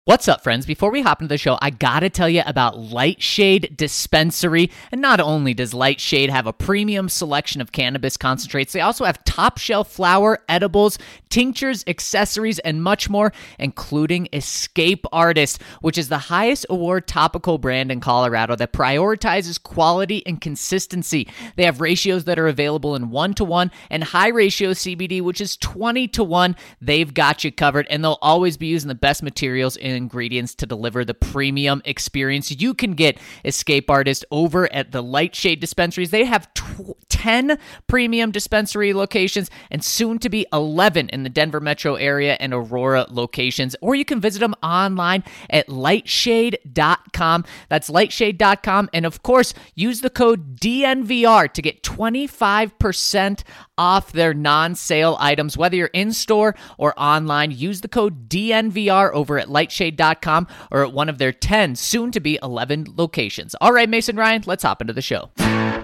What's up, friends? Before we hop into the show, I gotta tell you about Lightshade Dispensary. And not only does Lightshade have a premium selection of cannabis concentrates, they also have top shelf flower, edibles, tinctures, accessories, and much more, including Escape Artist, which is the highest award topical brand in Colorado that prioritizes quality and consistency. They have ratios that are available in 1-to-1 and high ratio CBD, which is 20-to-1. They've got you covered, and they'll always be using the best materials and ingredients to deliver the premium experience. You can get Escape Artist over at the Lightshade dispensaries. They have 10 premium dispensary locations and soon to be 11 in the Denver metro area and Aurora locations. Or you can visit them online at lightshade.com. That's lightshade.com. And of course, use the code DNVR to get 25% off their non-sale items, whether you're in store or online. Use the code DNVR over at lightshade.com or at one of their 10, soon to be 11 locations. All right, Mason Ryan, let's hop into the show. Number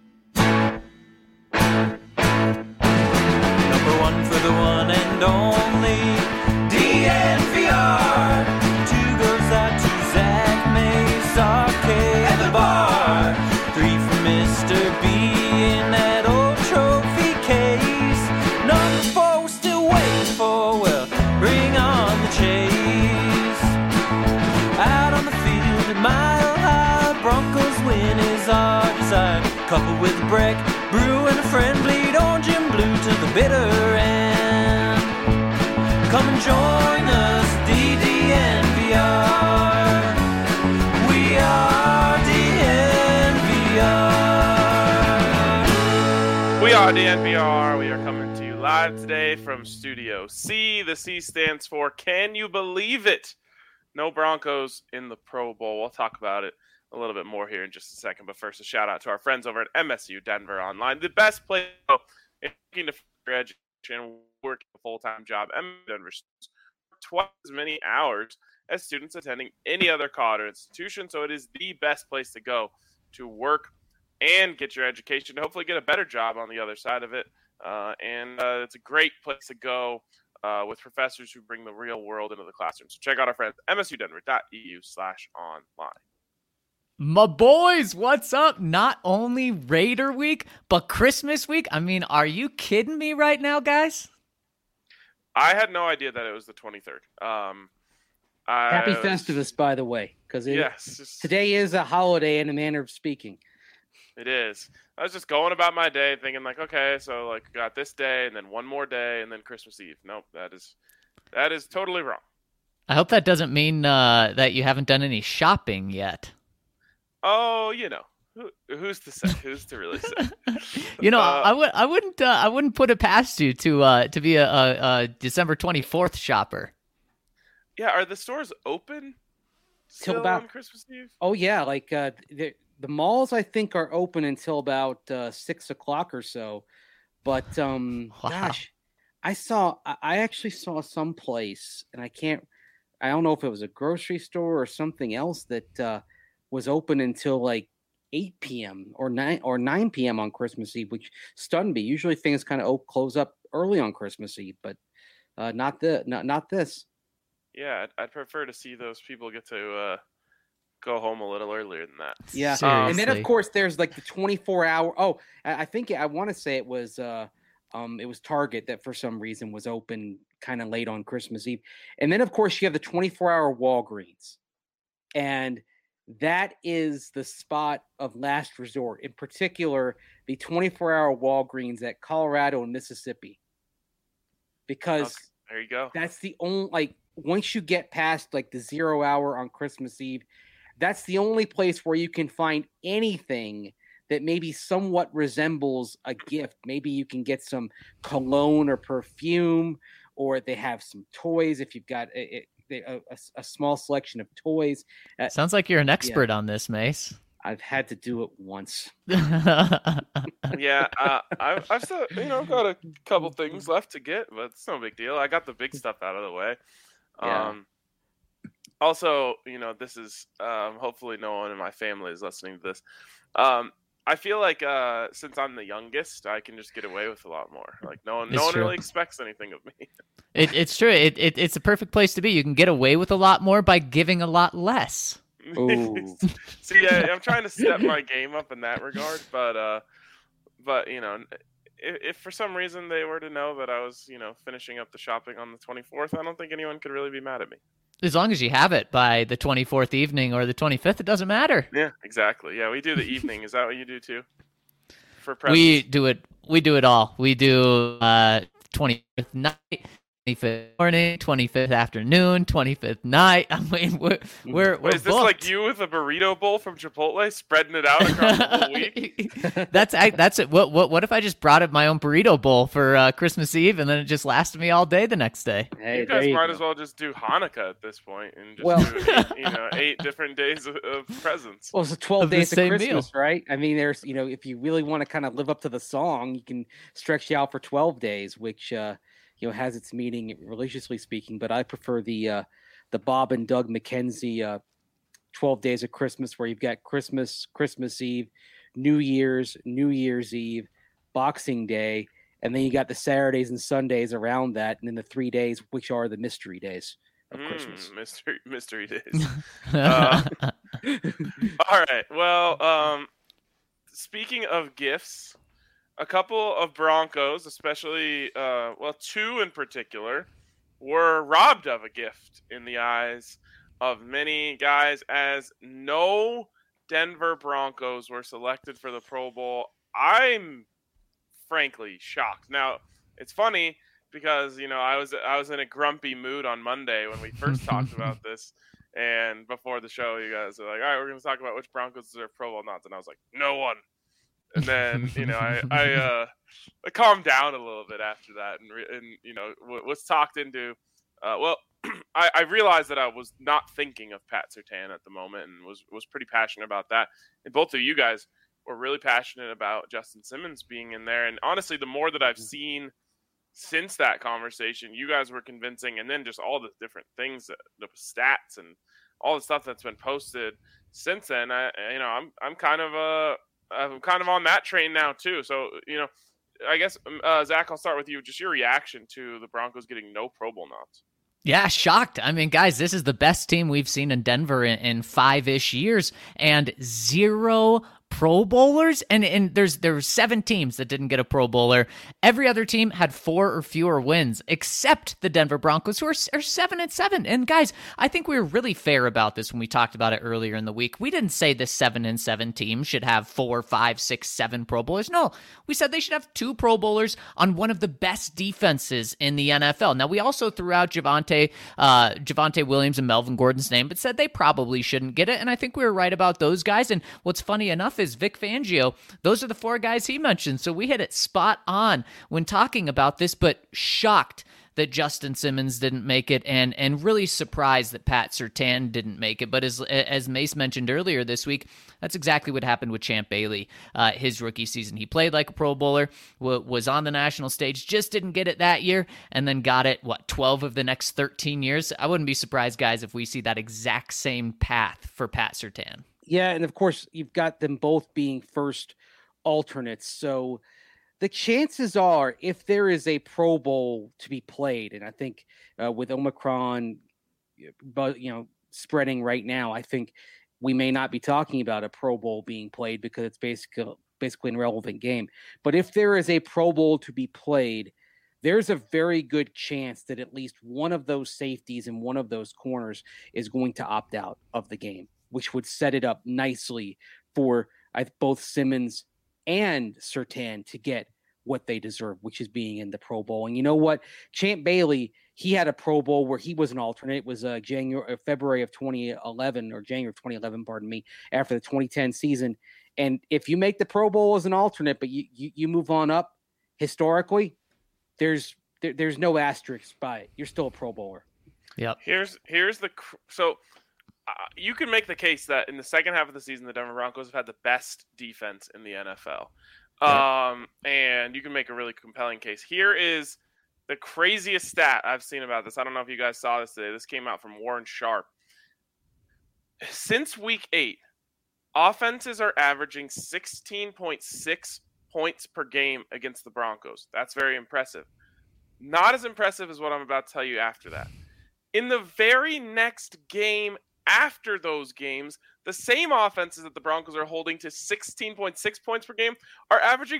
one for the one and only DNVR. Two goes out to Zach Mace, Arcade, and the bar. Three for Mr. B in that old trophy case. Number four we're still waiting for, well, bring on the chase. Out on the field at Mile High, Broncos win is our desire. Coupled with Breck, Brew, and a friend, bleed orange and blue to the bitter end. Come and join us, DDNVR. We are DNVR. We are DNVR. We are coming to you live today from Studio C. The C stands for Can You Believe It? No Broncos in the Pro Bowl. We'll talk about it a little bit more here in just a second. But first, a shout out to our friends over at MSU Denver Online, the best place to go if you're looking to further education, working a full-time job. MSU Denver students work twice as many hours as students attending any other college institution. So it is the best place to go to work and get your education, to hopefully get a better job on the other side of it. And it's a great place to go with professors who bring the real world into the classroom. So check out our friends, msudenver.edu/online. My boys, what's up? Not only Raider week, but Christmas week. I mean, are you kidding me right now, guys? I had no idea that it was the 23rd. Happy Festivus, by the way, because today is a holiday in a manner of speaking. It is. I was just going about my day thinking like, okay, so like got this day and then one more day and then Christmas Eve. Nope, that is totally wrong. I hope that doesn't mean that you haven't done any shopping yet. Oh, you know, who's to say? Who's to really say? You know, I wouldn't put it past you to be a December 24th shopper. Yeah, are the stores open till about on Christmas Eve? Oh yeah, like the malls I think are open until about 6 o'clock or so. But gosh, I actually saw some place, and I don't know if it was a grocery store or something else that was open until like 8 p.m. or 9 p.m. on Christmas Eve, which stunned me. Usually things kind of close up early on Christmas Eve, but not this. Yeah, I'd prefer to see those people get to go home a little earlier than that. Yeah, Seriously. And then of course there's like the 24-hour. Oh, I think I want to say it was Target that for some reason was open kind of late on Christmas Eve, and then of course you have the 24-hour Walgreens, and that is the spot of last resort. In particular, the 24-hour Walgreens at Colorado and Mississippi, because there you go. That's the only once you get past like the 0 hour on Christmas Eve, that's the only place where you can find anything that maybe somewhat resembles a gift. Maybe you can get some cologne or perfume, or they have some toys if you've got a small selection of toys. Sounds like you're an expert on this, Mace. I've had to do it once. Yeah, I've still, got a couple things left to get, but it's no big deal. I got the big stuff out of the way. Yeah. Also, this is hopefully no one in my family is listening to this. I feel like since I'm the youngest, I can just get away with a lot more. Like no one It's true. really expects anything of me. It's true. It's a perfect place to be. You can get away with a lot more by giving a lot less. Ooh. See, I'm trying to step my game up in that regard, but you know, if for some reason they were to know that I was, you know, finishing up the shopping on the 24th, I don't think anyone could really be mad at me. As long as you have it by the 24th evening or the 25th, it doesn't matter. Yeah, exactly. Yeah, we do the evening. Is that what you do too? For presents? We do it all. We do 25th night, 25th morning, 25th afternoon, 25th night. I mean, we're Wait, is this booked. like you with a burrito bowl from Chipotle, spreading it out across the whole week? That's it. What if I just brought up my own burrito bowl for Christmas Eve, and then it just lasted me all day the next day? Hey, You there guys might go. as well just do Hanukkah at this point and just Well- do 8 different days of presents. Well, it's 12 Of the days of same Christmas, right? I mean, there's, you know, if you really want to kind of live up to the song, you can stretch you out for 12 days, which, you know, has its meaning religiously speaking. But I prefer the Bob and Doug McKenzie 12 Days of Christmas, where you've got Christmas, Christmas Eve, New Year's Eve, Boxing Day, and then you got the Saturdays and Sundays around that, and then the 3 days, which are the mystery days of Christmas. Mystery days. All right. Well, speaking of gifts, a couple of Broncos, especially, 2 in particular, were robbed of a gift in the eyes of many guys, as no Denver Broncos were selected for the Pro Bowl. I'm frankly shocked. Now, it's funny because, you know, I was in a grumpy mood on Monday when we first talked about this. And before the show, you guys are like, all right, we're going to talk about which Broncos deserve Pro Bowl nods. And I was like, no one. And then, you know, I calmed down a little bit after that and you know, was talked into, I realized that I was not thinking of Pat Surtain at the moment and was pretty passionate about that. And both of you guys were really passionate about Justin Simmons being in there. And honestly, the more that I've seen since that conversation, you guys were convincing, and then just all the different things, the stats and all the stuff that's been posted since then, I'm kind of on that train now too. So, you know, I guess, Zach, I'll start with you. Just your reaction to the Broncos getting no Pro Bowl nods. Yeah, shocked. I mean, guys, this is the best team we've seen in Denver in 5-ish years, and 0 Pro Bowlers, and there were 7 teams that didn't get a Pro Bowler. Every other team had 4 or fewer wins, except the Denver Broncos, who are 7-7. And guys, I think we were really fair about this when we talked about it earlier in the week. We didn't say the 7-7 team should have 4, 5, 6, 7 Pro Bowlers. No, we said they should have 2 Pro Bowlers on one of the best defenses in the NFL. Now, we also threw out Javonte Williams and Melvin Gordon's name, but said they probably shouldn't get it. And I think we were right about those guys. And what's funny enough is Vic Fangio, those are the 4 guys he mentioned. So we hit it spot on when talking about this, but shocked that Justin Simmons didn't make it, and really surprised that Pat Surtain didn't make it. But as Mace mentioned earlier this week, that's exactly what happened with Champ Bailey. His rookie season, he played like a Pro Bowler, was on the national stage, just didn't get it that year, and then got it, 12 of the next 13 years? I wouldn't be surprised, guys, if we see that exact same path for Pat Surtain. Yeah, and of course, you've got them both being first alternates. So the chances are, if there is a Pro Bowl to be played, and I think with Omicron, but spreading right now, I think we may not be talking about a Pro Bowl being played because it's basically an irrelevant game. But if there is a Pro Bowl to be played, there's a very good chance that at least one of those safeties and one of those corners is going to opt out of the game, which would set it up nicely for both Simmons and Surtain to get what they deserve, which is being in the Pro Bowl. And you know what? Champ Bailey, he had a Pro Bowl where he was an alternate. It was February of 2011, or January of 2011, pardon me, after the 2010 season. And if you make the Pro Bowl as an alternate, but you move on up historically, there's no asterisk by it. You're still a Pro Bowler. Yep. You can make the case that in the second half of the season, the Denver Broncos have had the best defense in the NFL. And you can make a really compelling case. Here is the craziest stat I've seen about this. I don't know if you guys saw this today. This came out from Warren Sharp. Since week 8, offenses are averaging 16.6 points per game against the Broncos. That's very impressive. Not as impressive as what I'm about to tell you after that. In the very next game after those games, the same offenses that the Broncos are holding to 16.6 points per game are averaging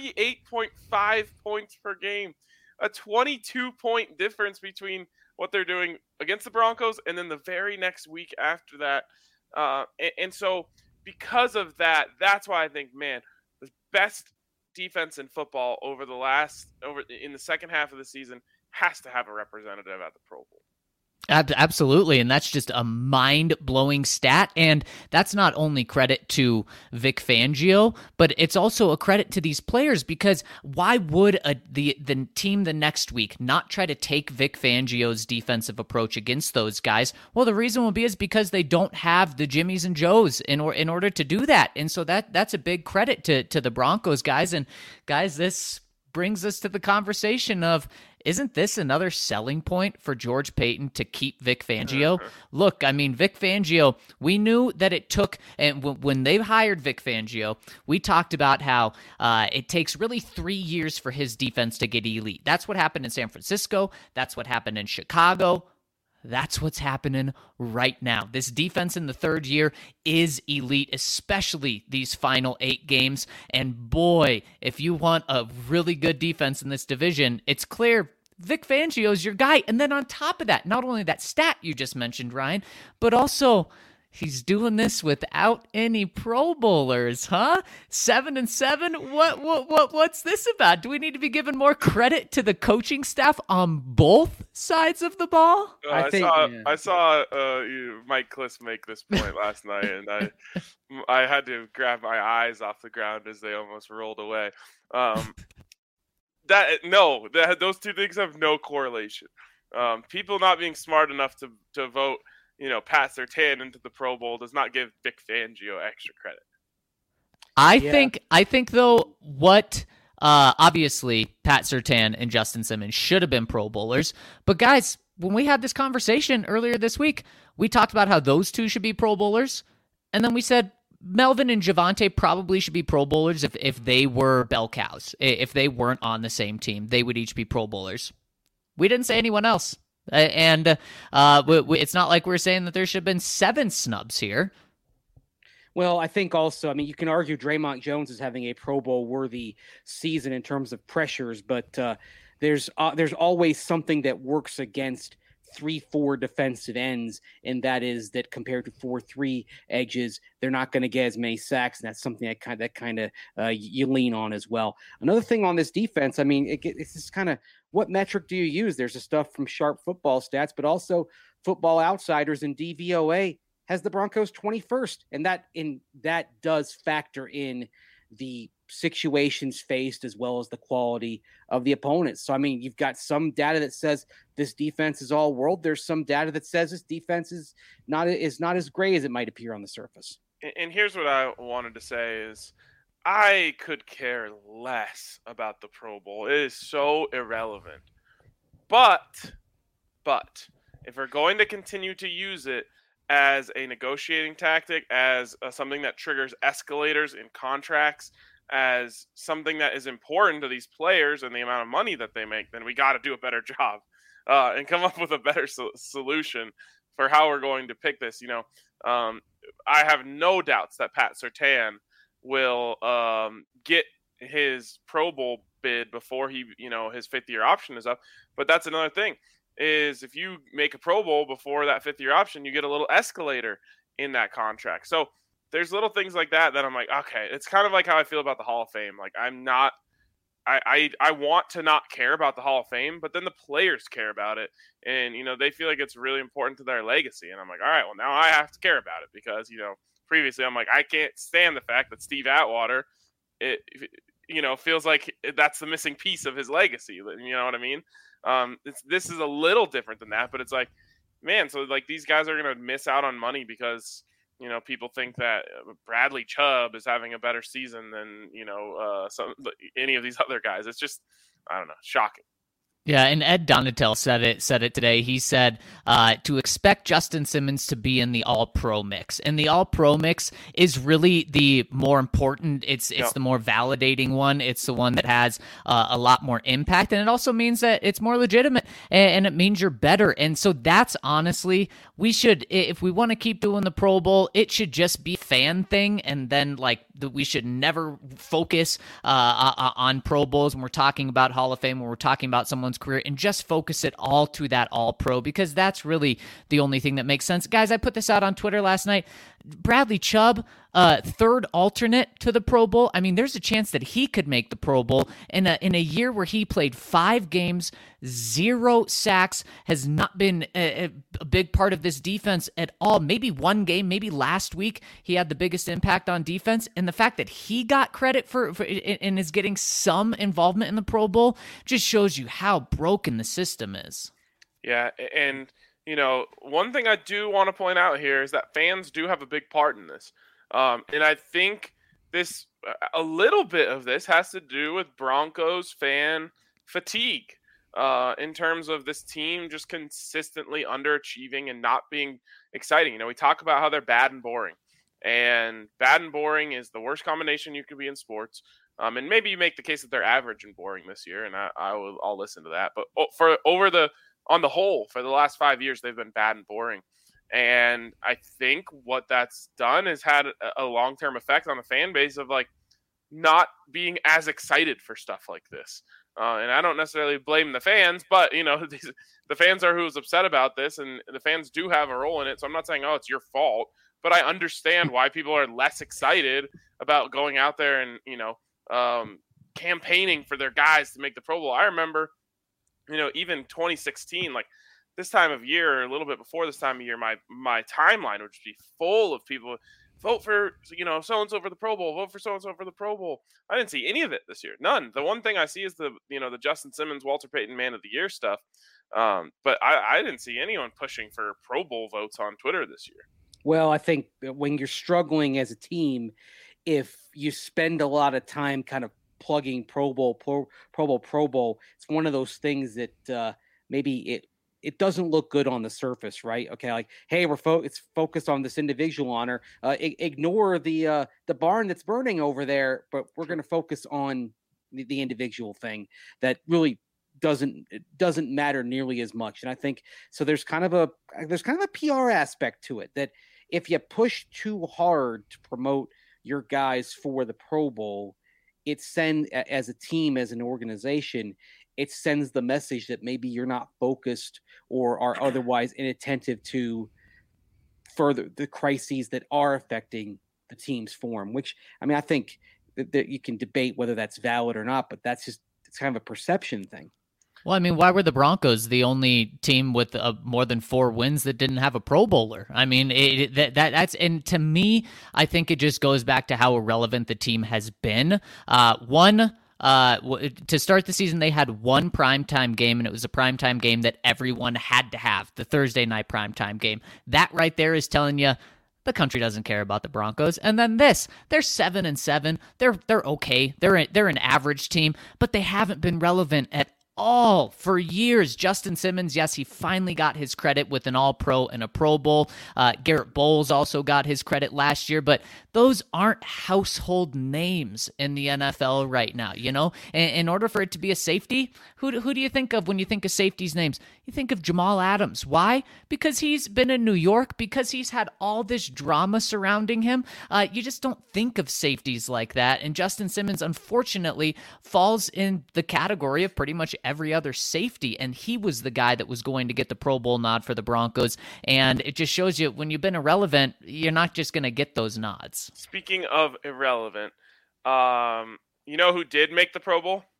38.5 points per game. A 22-point difference between what they're doing against the Broncos and then the very next week after that. And so because of that, that's why I think, man, the best defense in football in the second half of the season has to have a representative at the Pro Bowl. Absolutely, and that's just a mind-blowing stat, and that's not only credit to Vic Fangio, but it's also a credit to these players, because why would the team the next week not try to take Vic Fangio's defensive approach against those guys? Well, the reason will be is because they don't have the Jimmies and Joes in order to do that, and so that's a big credit to the Broncos guys. And guys, this brings us to the conversation of, isn't this another selling point for George Paton to keep Vic Fangio? Look, I mean, Vic Fangio, we knew that it took, and when they hired Vic Fangio, we talked about how it takes really 3 years for his defense to get elite. That's what happened in San Francisco. That's what happened in Chicago. That's what's happening right now. This defense in the third year is elite, especially these final 8 games. And boy, if you want a really good defense in this division, it's clear Vic Fangio's your guy. And then on top of that, not only that stat you just mentioned, Ryan, but also he's doing this without any Pro Bowlers, huh? 7-7. What's this about? Do we need to be giving more credit to the coaching staff on both sides of the ball? I saw Mike Kliss make this point last night, and I had to grab my eyes off the ground as they almost rolled away. Those two things have no correlation. People not being smart enough to vote, Pat Surtain into the Pro Bowl does not give Vic Fangio extra credit. I think though, what obviously Pat Surtain and Justin Simmons should have been Pro Bowlers, but guys, when we had this conversation earlier this week, we talked about how those two should be Pro Bowlers, and then we said Melvin and Javonte probably should be Pro Bowlers if they were bell cows. If they weren't on the same team, they would each be Pro Bowlers. We didn't say anyone else. And it's not like we're saying that there should have been 7 snubs here. Well, I think also, you can argue Draymond Jones is having a Pro Bowl worthy season in terms of pressures, but there's always something that works against 3-4 defensive ends, and that is that compared to 4-3 edges, they're not going to get as many sacks, and that's something that kind of you lean on as well. Another thing on this defense, it's just kind of, what metric do you use? There's the stuff from Sharp Football Stats, but also Football Outsiders and DVOA has the Broncos 21st, and that does factor in the situations faced as well as the quality of the opponents. So, you've got some data that says this defense is all world. There's some data that says this defense is not as great as it might appear on the surface. And here's what I wanted to say is, I could care less about the Pro Bowl. It is so irrelevant. But if we're going to continue to use it as a negotiating tactic, as something that triggers escalators in contracts, as something that is important to these players and the amount of money that they make, then we got to do a better job and come up with a better solution for how we're going to pick this. I have no doubts that Pat Surtain will get his Pro Bowl bid before his 5th-year option is up. But that's another thing, is if you make a Pro Bowl before that 5th-year option, you get a little escalator in that contract. So there's little things like that I'm like, okay, it's kind of like how I feel about the Hall of Fame. Like, I want to not care about the Hall of Fame, but then the players care about it. And, they feel like it's really important to their legacy. And I'm like, all right, well, now I have to care about it because, previously I'm like, I can't stand the fact that Steve Atwater, feels like that's the missing piece of his legacy. You know what I mean? This is a little different than that, but it's like, man, so like these guys are going to miss out on money because, people think that Bradley Chubb is having a better season than, any of these other guys. It's just, I don't know, shocking. Yeah, and Ed Donatel said it today. He said to expect Justin Simmons to be in the All-Pro mix, and the All-Pro mix is really the more important. It's the more validating one. It's the one that has a lot more impact, and it also means that it's more legitimate, and it means you're better. And so that's honestly, we should, if we want to keep doing the Pro Bowl, it should just be a fan thing, and then we should never focus on Pro Bowls when we're talking about Hall of Fame, when we're talking about someone's career, and just focus it all to that All-Pro, because that's really the only thing that makes sense. Guys, I put this out on Twitter last night. Bradley Chubb, third alternate to the Pro Bowl. I mean, there's a chance that he could make the Pro Bowl in a year where he played 5 games, 0 sacks, has not been a big part of this defense at all. Maybe one game, maybe last week, he had the biggest impact on defense. And the fact that he got credit for and is getting some involvement in the Pro Bowl just shows you how broken the system is. Yeah, and one thing I do want to point out here is that fans do have a big part in this. And I think a little bit of this has to do with Broncos fan fatigue in terms of this team just consistently underachieving and not being exciting. We talk about how they're bad and boring. And bad and boring is the worst combination you could be in sports. And maybe you make the case that they're average and boring this year, and I'll listen to that. But on the whole, for the last 5 years, they've been bad and boring. And I think what that's done is had a long-term effect on the fan base of not being as excited for stuff like this. And I don't necessarily blame the fans, but the fans are who's upset about this, and the fans do have a role in it. So I'm not saying, oh, it's your fault, but I understand why people are less excited about going out there and campaigning for their guys to make the Pro Bowl. I remember, even 2016, this time of year, or a little bit before this time of year, my timeline would just be full of people. Vote for so-and-so for the Pro Bowl. Vote for so-and-so for the Pro Bowl. I didn't see any of it this year. None. The one thing I see is the Justin Simmons, Walter Payton Man of the Year stuff. But I didn't see anyone pushing for Pro Bowl votes on Twitter this year. Well, I think when you're struggling as a team, if you spend a lot of time kind of plugging Pro Bowl, it's one of those things that maybe it doesn't look good on the surface, right? Okay, hey, it's focused on this individual honor. Ignore the barn that's burning over there, but we're going to focus on the individual thing that really doesn't matter nearly as much. And I think so. There's kind of a PR aspect to it that if you push too hard to promote your guys for the Pro Bowl, it sends, as a team, as an organization, it sends the message that maybe you're not focused or are otherwise inattentive to further the crises that are affecting the team's form, which, I think that you can debate whether that's valid or not, but it's kind of a perception thing. Well, why were the Broncos the only team with more than 4 wins that didn't have a Pro Bowler? That's and to me, I think it just goes back to how irrelevant the team has been. To start the season, they had one primetime game, and it was a primetime game that everyone had to have, the Thursday night primetime game. That right there is telling you the country doesn't care about the Broncos. And then they're 7-7. They're okay. They're an average team, but they haven't been relevant at all for years. Justin Simmons, yes, he finally got his credit with an All-Pro and a Pro Bowl. Garrett Bowles also got his credit last year, but those aren't household names in the NFL right now, In order for it to be a safety, who do you think of when you think of safeties' names? You think of Jamal Adams. Why? Because he's been in New York, because he's had all this drama surrounding him. You just don't think of safeties like that, and Justin Simmons, unfortunately, falls in the category of pretty much every other safety, and he was the guy that was going to get the Pro Bowl nod for the Broncos, and it just shows you when you've been irrelevant, you're not just going to get those nods. Speaking of irrelevant, who did make the Pro Bowl?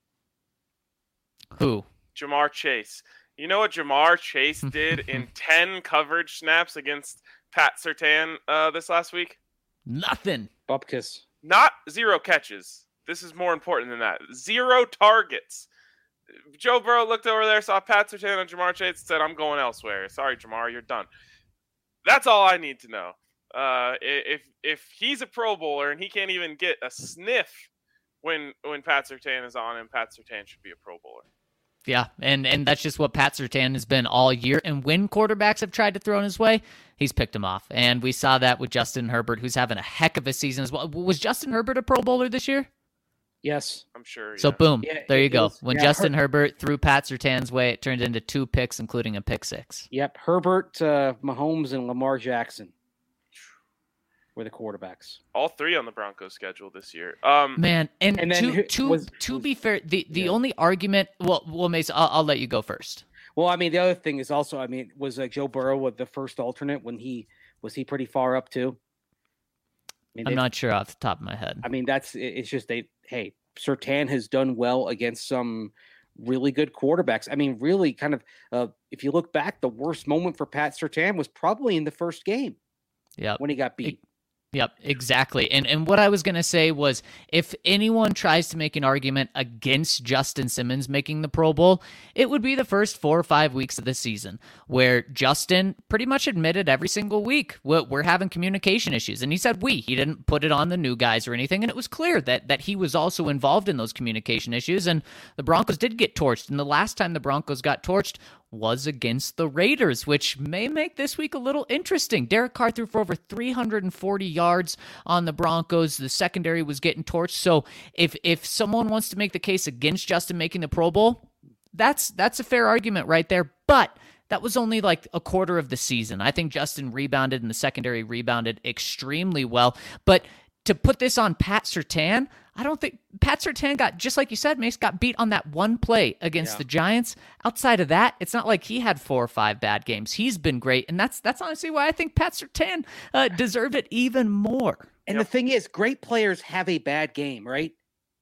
Who? Ja'Marr Chase. You know what Ja'Marr Chase did in 10 coverage snaps against Pat Surtain this last week? Nothing. Bupkis. Not 0 catches. This is more important than that. 0 targets. Joe Burrow looked over there, saw Pat Surtain and Ja'Marr Chase, and said, I'm going elsewhere. Sorry, Ja'Marr, you're done. That's all I need to know. If he's a Pro Bowler and he can't even get a sniff when Pat Surtain is on him, Pat Surtain should be a Pro Bowler. Yeah, and that's just what Pat Surtain has been all year. And when quarterbacks have tried to throw in his way, he's picked them off. And we saw that with Justin Herbert, who's having a heck of a season as well. Was Justin Herbert a Pro Bowler this year? Yes. I'm sure. So yeah. boom, Yeah, there you it go. was- When yeah, Justin Herbert threw Pat Surtain's way, it turned into 2 picks, including a pick 6. Yep. Herbert, Mahomes, and Lamar Jackson were the quarterbacks. All 3 on the Broncos schedule this year. Man, and And then to be fair, the only argument, well, Mason, I'll let you go first. Well, I mean, the other thing is also, I mean, was Joe Burrow with the first alternate when was he pretty far up too? I mean, I'm not sure off the top of my head. I mean, it's just hey, Surtain has done well against some really good quarterbacks. I mean, really kind of, if you look back, the worst moment for Pat Surtain was probably in the first game. Yeah, when he got beat. Yep, exactly. And what I was going to say was, if anyone tries to make an argument against Justin Simmons making the Pro Bowl, it would be the first 4 or 5 weeks of the season, where Justin pretty much admitted every single week, we're having communication issues. And he said he didn't put it on the new guys or anything. And it was clear that he was also involved in those communication issues. And the Broncos did get torched. And the last time the Broncos got torched was against the Raiders, which may make this week a little interesting. Derek Carr threw for over 340 yards on the Broncos. The secondary was getting torched. So if someone wants to make the case against Justin making the Pro Bowl, that's a fair argument right there. But that was only like a quarter of the season. I think Justin rebounded and the secondary rebounded extremely well. But to put this on Pat Surtain, I don't think Pat Surtain got, just like you said, Mace, got beat on that one play against the Giants. Outside of that, it's not like he had 4 or 5 bad games. He's been great, and that's honestly why I think Pat Surtain deserved it even more. And the thing is, great players have a bad game, right?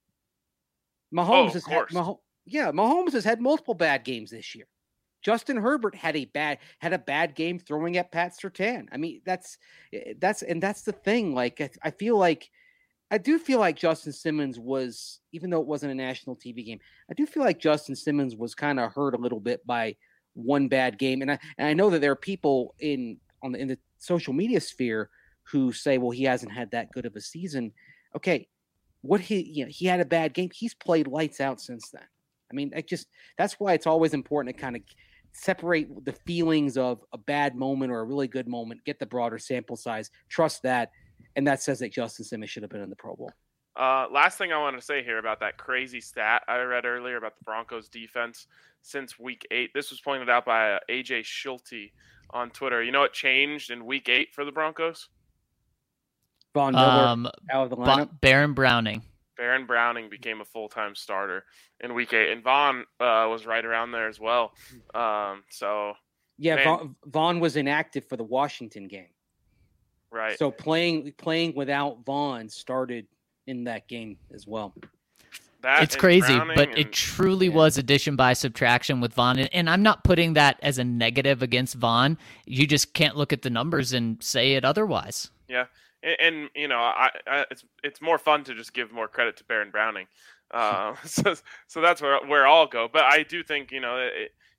Mahomes Mahomes has had multiple bad games this year. Justin Herbert had a bad game throwing at Pat Surtain. I mean, that's the thing. Like, I do feel like Justin Simmons was, even though it wasn't a national TV game, I do feel like Justin Simmons was kind of hurt a little bit by one bad game. And I know that there are people in the social media sphere who say, well, he hasn't had that good of a season. Okay, he had a bad game. He's played lights out since then. I mean, that's why it's always important to kind of separate the feelings of a bad moment or a really good moment, get the broader sample size, trust that. And that says that Justin Simmons should have been in the Pro Bowl. Last thing I want to say here about that crazy stat I read earlier about the Broncos defense since Week 8. This was pointed out by AJ Schulte on Twitter. You know what changed in Week 8 for the Broncos? Von Miller out of the lineup. Baron Browning. Baron Browning became a full-time starter in Week 8, and Vaughn was right around there as well. Vaughn was inactive for the Washington game. Right. So playing without Vaughn started in that game as well. It's crazy, but it truly was addition by subtraction with Vaughn. And I'm not putting that as a negative against Vaughn. You just can't look at the numbers and say it otherwise. Yeah. And you know, it's more fun to just give more credit to Baron Browning. So that's where I'll go. But I do think, you know,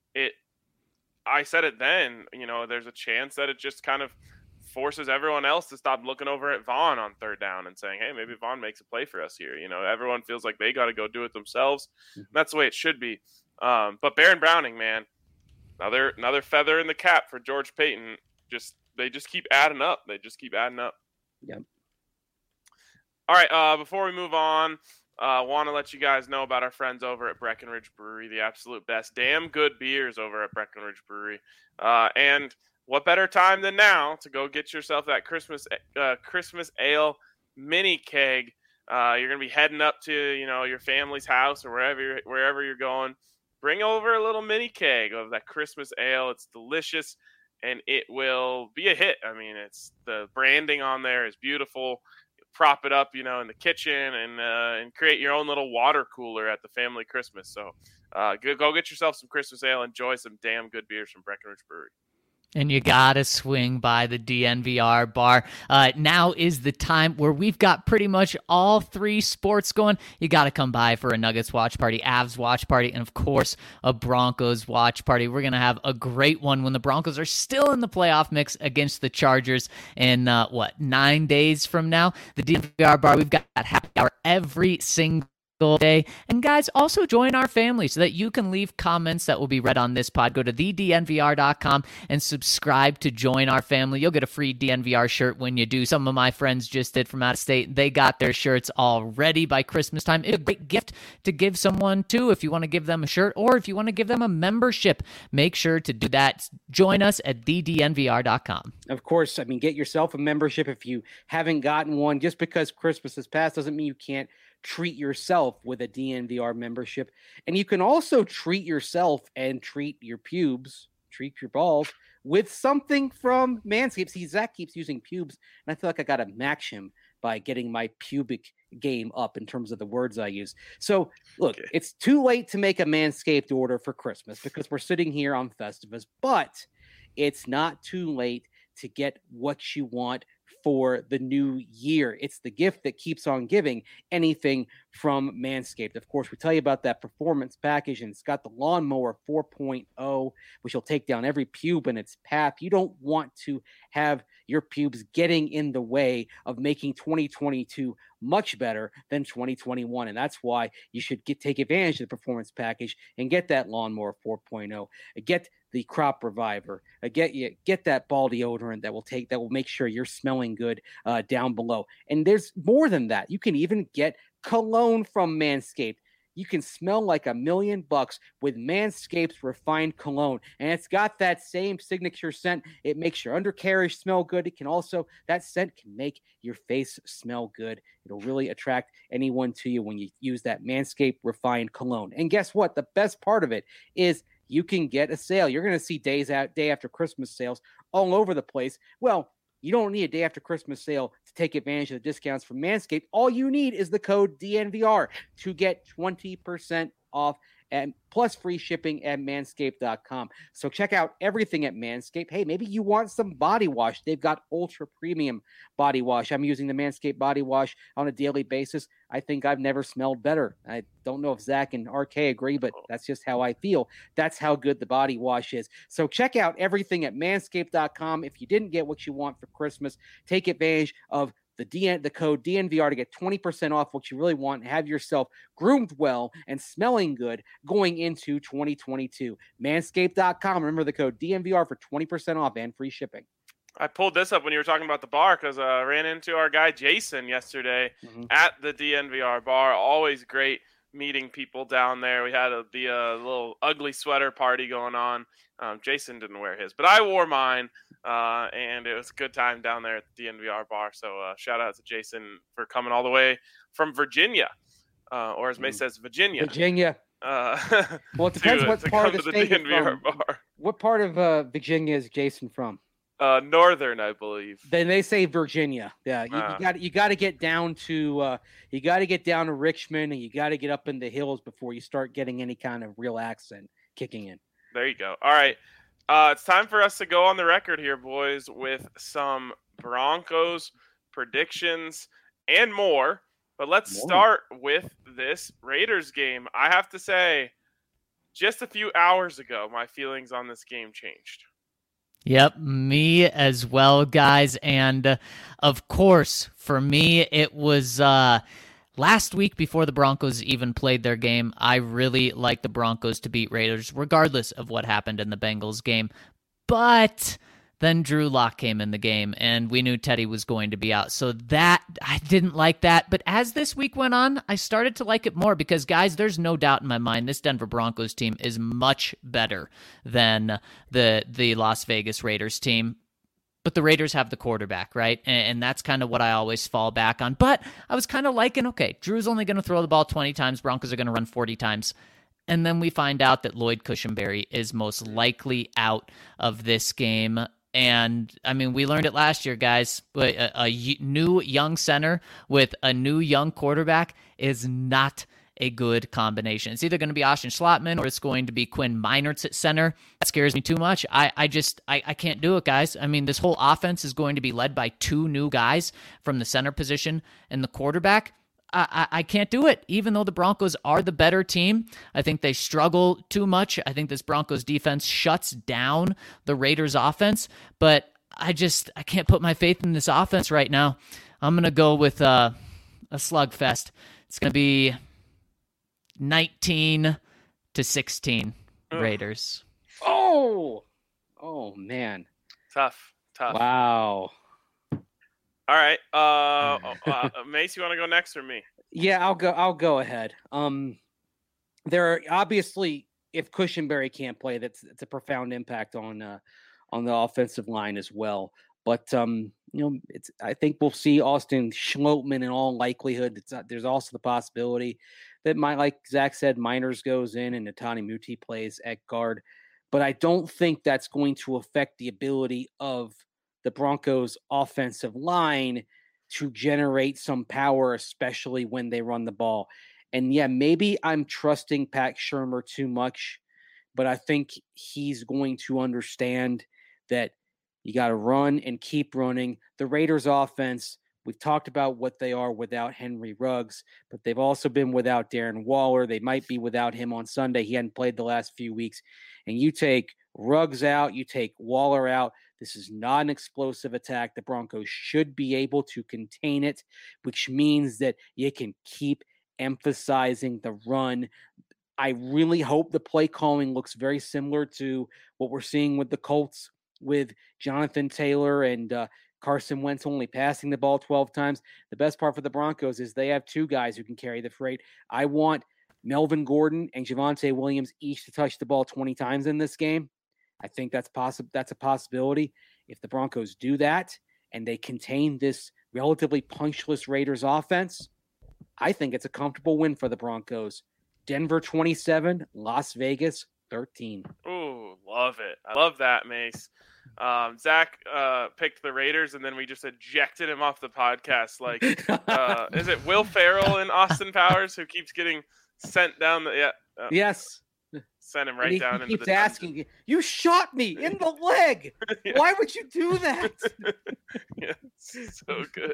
I said it then, you know, there's a chance that it just kind of forces everyone else to stop looking over at Vaughn on third down and saying, hey, maybe Vaughn makes a play for us here. You know, everyone feels like they got to go do it themselves. That's the way it should be. But Baron Browning, man, another feather in the cap for George Paton. They just keep adding up. Yep. All right. Before we move on, want to let you guys know about our friends over at Breckenridge Brewery, the absolute best. Damn good beers over at Breckenridge Brewery. And what better time than now to go get yourself that Christmas ale mini keg? You're gonna be heading up to, you know, your family's house or wherever you're going. Bring over a little mini keg of that Christmas ale. It's delicious and it will be a hit. I mean, it's the branding on there is beautiful. You prop it up, you know, in the kitchen and create your own little water cooler at the family Christmas. So go get yourself some Christmas ale. Enjoy some damn good beers from Breckenridge Brewery. And you gotta swing by the DNVR bar. Now is the time where we've got pretty much all 3 sports going. You gotta come by for a Nuggets watch party, Avs watch party, and of course a Broncos watch party. We're gonna have a great one when the Broncos are still in the playoff mix against the Chargers in 9 days from now. The DNVR bar, we've got happy hour every single day. And guys, also join our family so that you can leave comments that will be read on this pod. Go to thednvr.com and subscribe to join our family. You'll get a free DNVR shirt when you do. Some of my friends just did from out of state. They got their shirts already by Christmas time. It's a great gift to give someone too if you want to give them a shirt or if you want to give them a membership. Make sure to do that. Join us at thednvr.com. Of course, I mean, get yourself a membership if you haven't gotten one. Just because Christmas has passed doesn't mean you can't treat yourself with a DNVR membership. And you can also treat yourself and treat your pubes, treat your balls with something from Manscaped. See, Zach keeps using pubes, and I feel like I got to match him by getting my pubic game up in terms of the words I use. So, look, It's too late to make a Manscaped order for Christmas because we're sitting here on Festivus, but it's not too late to get what you want for the new year. It's the gift that keeps on giving. Anything from Manscaped. Of course, we tell you about that performance package, and it's got the Lawnmower 4.0, which will take down every pube in its path. You don't want to have your pubes getting in the way of making 2022 much better than 2021. And that's why you should take advantage of the performance package and get that Lawnmower 4.0. Get the Crop Reviver. Get that ball deodorant that will make sure you're smelling good down below. And there's more than that. You can even get cologne from Manscaped. You can smell like $1 million with Manscaped's refined cologne. And it's got that same signature scent. It makes your undercarriage smell good. It can also, that scent can make your face smell good. It'll really attract anyone to you when you use that Manscaped refined cologne. And guess what? The best part of it is you can get a sale. You're going to see day after Christmas sales all over the place. Well, you don't need a day after Christmas sale to take advantage of the discounts from Manscaped. All you need is the code DNVR to get 20% off and plus free shipping at manscaped.com. So check out everything at Manscaped. Hey, maybe you want some body wash. They've got ultra premium body wash. I'm using the Manscaped body wash on a daily basis. I think I've never smelled better. I don't know if Zach and RK agree, but that's just how I feel. That's how good the body wash is. So check out everything at manscaped.com. If you didn't get what you want for Christmas, take advantage of the code DNVR to get 20% off what you really want and have yourself groomed well and smelling good going into 2022. Manscaped.com. Remember the code DNVR for 20% off and free shipping. I pulled this up when you were talking about the bar because I ran into our guy Jason yesterday at the DNVR bar. Always great meeting people down there. We had a little ugly sweater party going on. Jason didn't wear his, but I wore mine. And it was a good time down there at the DNVR bar. So shout out to Jason for coming all the way from Virginia, or as May says, Virginia. Well, it depends what part of the state DNVR bar. What part of Virginia is Jason from? Northern, I believe. Then they say Virginia. Yeah, you got to get down to Richmond, and you got to get up in the hills before you start getting any kind of real accent kicking in. There you go. All right. It's time for us to go on the record here, boys, with some Broncos predictions and more. But let's start with this Raiders game. I have to say, just a few hours ago, my feelings on this game changed. Yep, me as well, guys. And of course, for me, it was last week before the Broncos even played their game. I really like the Broncos to beat Raiders, regardless of what happened in the Bengals game. But then Drew Lock came in the game, and we knew Teddy was going to be out. So that, I didn't like that. But as this week went on, I started to like it more because, guys, there's no doubt in my mind this Denver Broncos team is much better than the Las Vegas Raiders team. But the Raiders have the quarterback, right? And that's kind of what I always fall back on. But I was kind of liking, okay, Drew's only going to throw the ball 20 times. Broncos are going to run 40 times. And then we find out that Lloyd Cushenberry is most likely out of this game. And, I mean, we learned it last year, guys. But a new young center with a new young quarterback is not a good combination. It's either going to be Austin Schlottman or it's going to be Quinn Meinerz at center. That scares me too much. I can't do it, guys. I mean, this whole offense is going to be led by two new guys from the center position and the quarterback. I can't do it, even though the Broncos are the better team. I think they struggle too much. I think this Broncos defense shuts down the Raiders offense, but I can't put my faith in this offense right now. I'm going to go with a slugfest. It's going to be 19-16 Ugh. Raiders. Oh man. Tough. Wow. All right. Mace, you want to go next or me? Yeah, I'll go ahead. There are obviously, if Cushenberry can't play, that's a profound impact on the offensive line as well. But I think we'll see Austin Schlottman in all likelihood. There's also the possibility that like Zach said, Miners goes in and Netani Muti plays at guard. But I don't think that's going to affect the ability of the Broncos' offensive line to generate some power, especially when they run the ball. And yeah, maybe I'm trusting Pat Shurmur too much, but I think he's going to understand that you got to run and keep running. The Raiders' offense, we've talked about what they are without Henry Ruggs, but they've also been without Darren Waller. They might be without him on Sunday. He hadn't played the last few weeks. And you take Ruggs out, you take Waller out. This is not an explosive attack. The Broncos should be able to contain it, which means that you can keep emphasizing the run. I really hope the play calling looks very similar to what we're seeing with the Colts, with Jonathan Taylor and Carson Wentz only passing the ball 12 times. The best part for the Broncos is they have two guys who can carry the freight. I want Melvin Gordon and Javonte Williams each to touch the ball 20 times in this game. I think that's possible. That's a possibility. If the Broncos do that and they contain this relatively punchless Raiders offense, I think it's a comfortable win for the Broncos. Denver 27, Las Vegas 13. Ooh, love it. I love that, Mace. Zach picked the Raiders, and then we just ejected him off the podcast. Like, is it Will Ferrell and Austin Powers who keeps getting sent down? Yes. Send him right down he into keeps the asking, you shot me in the leg. Yeah. Why would you do that? Yeah, so good.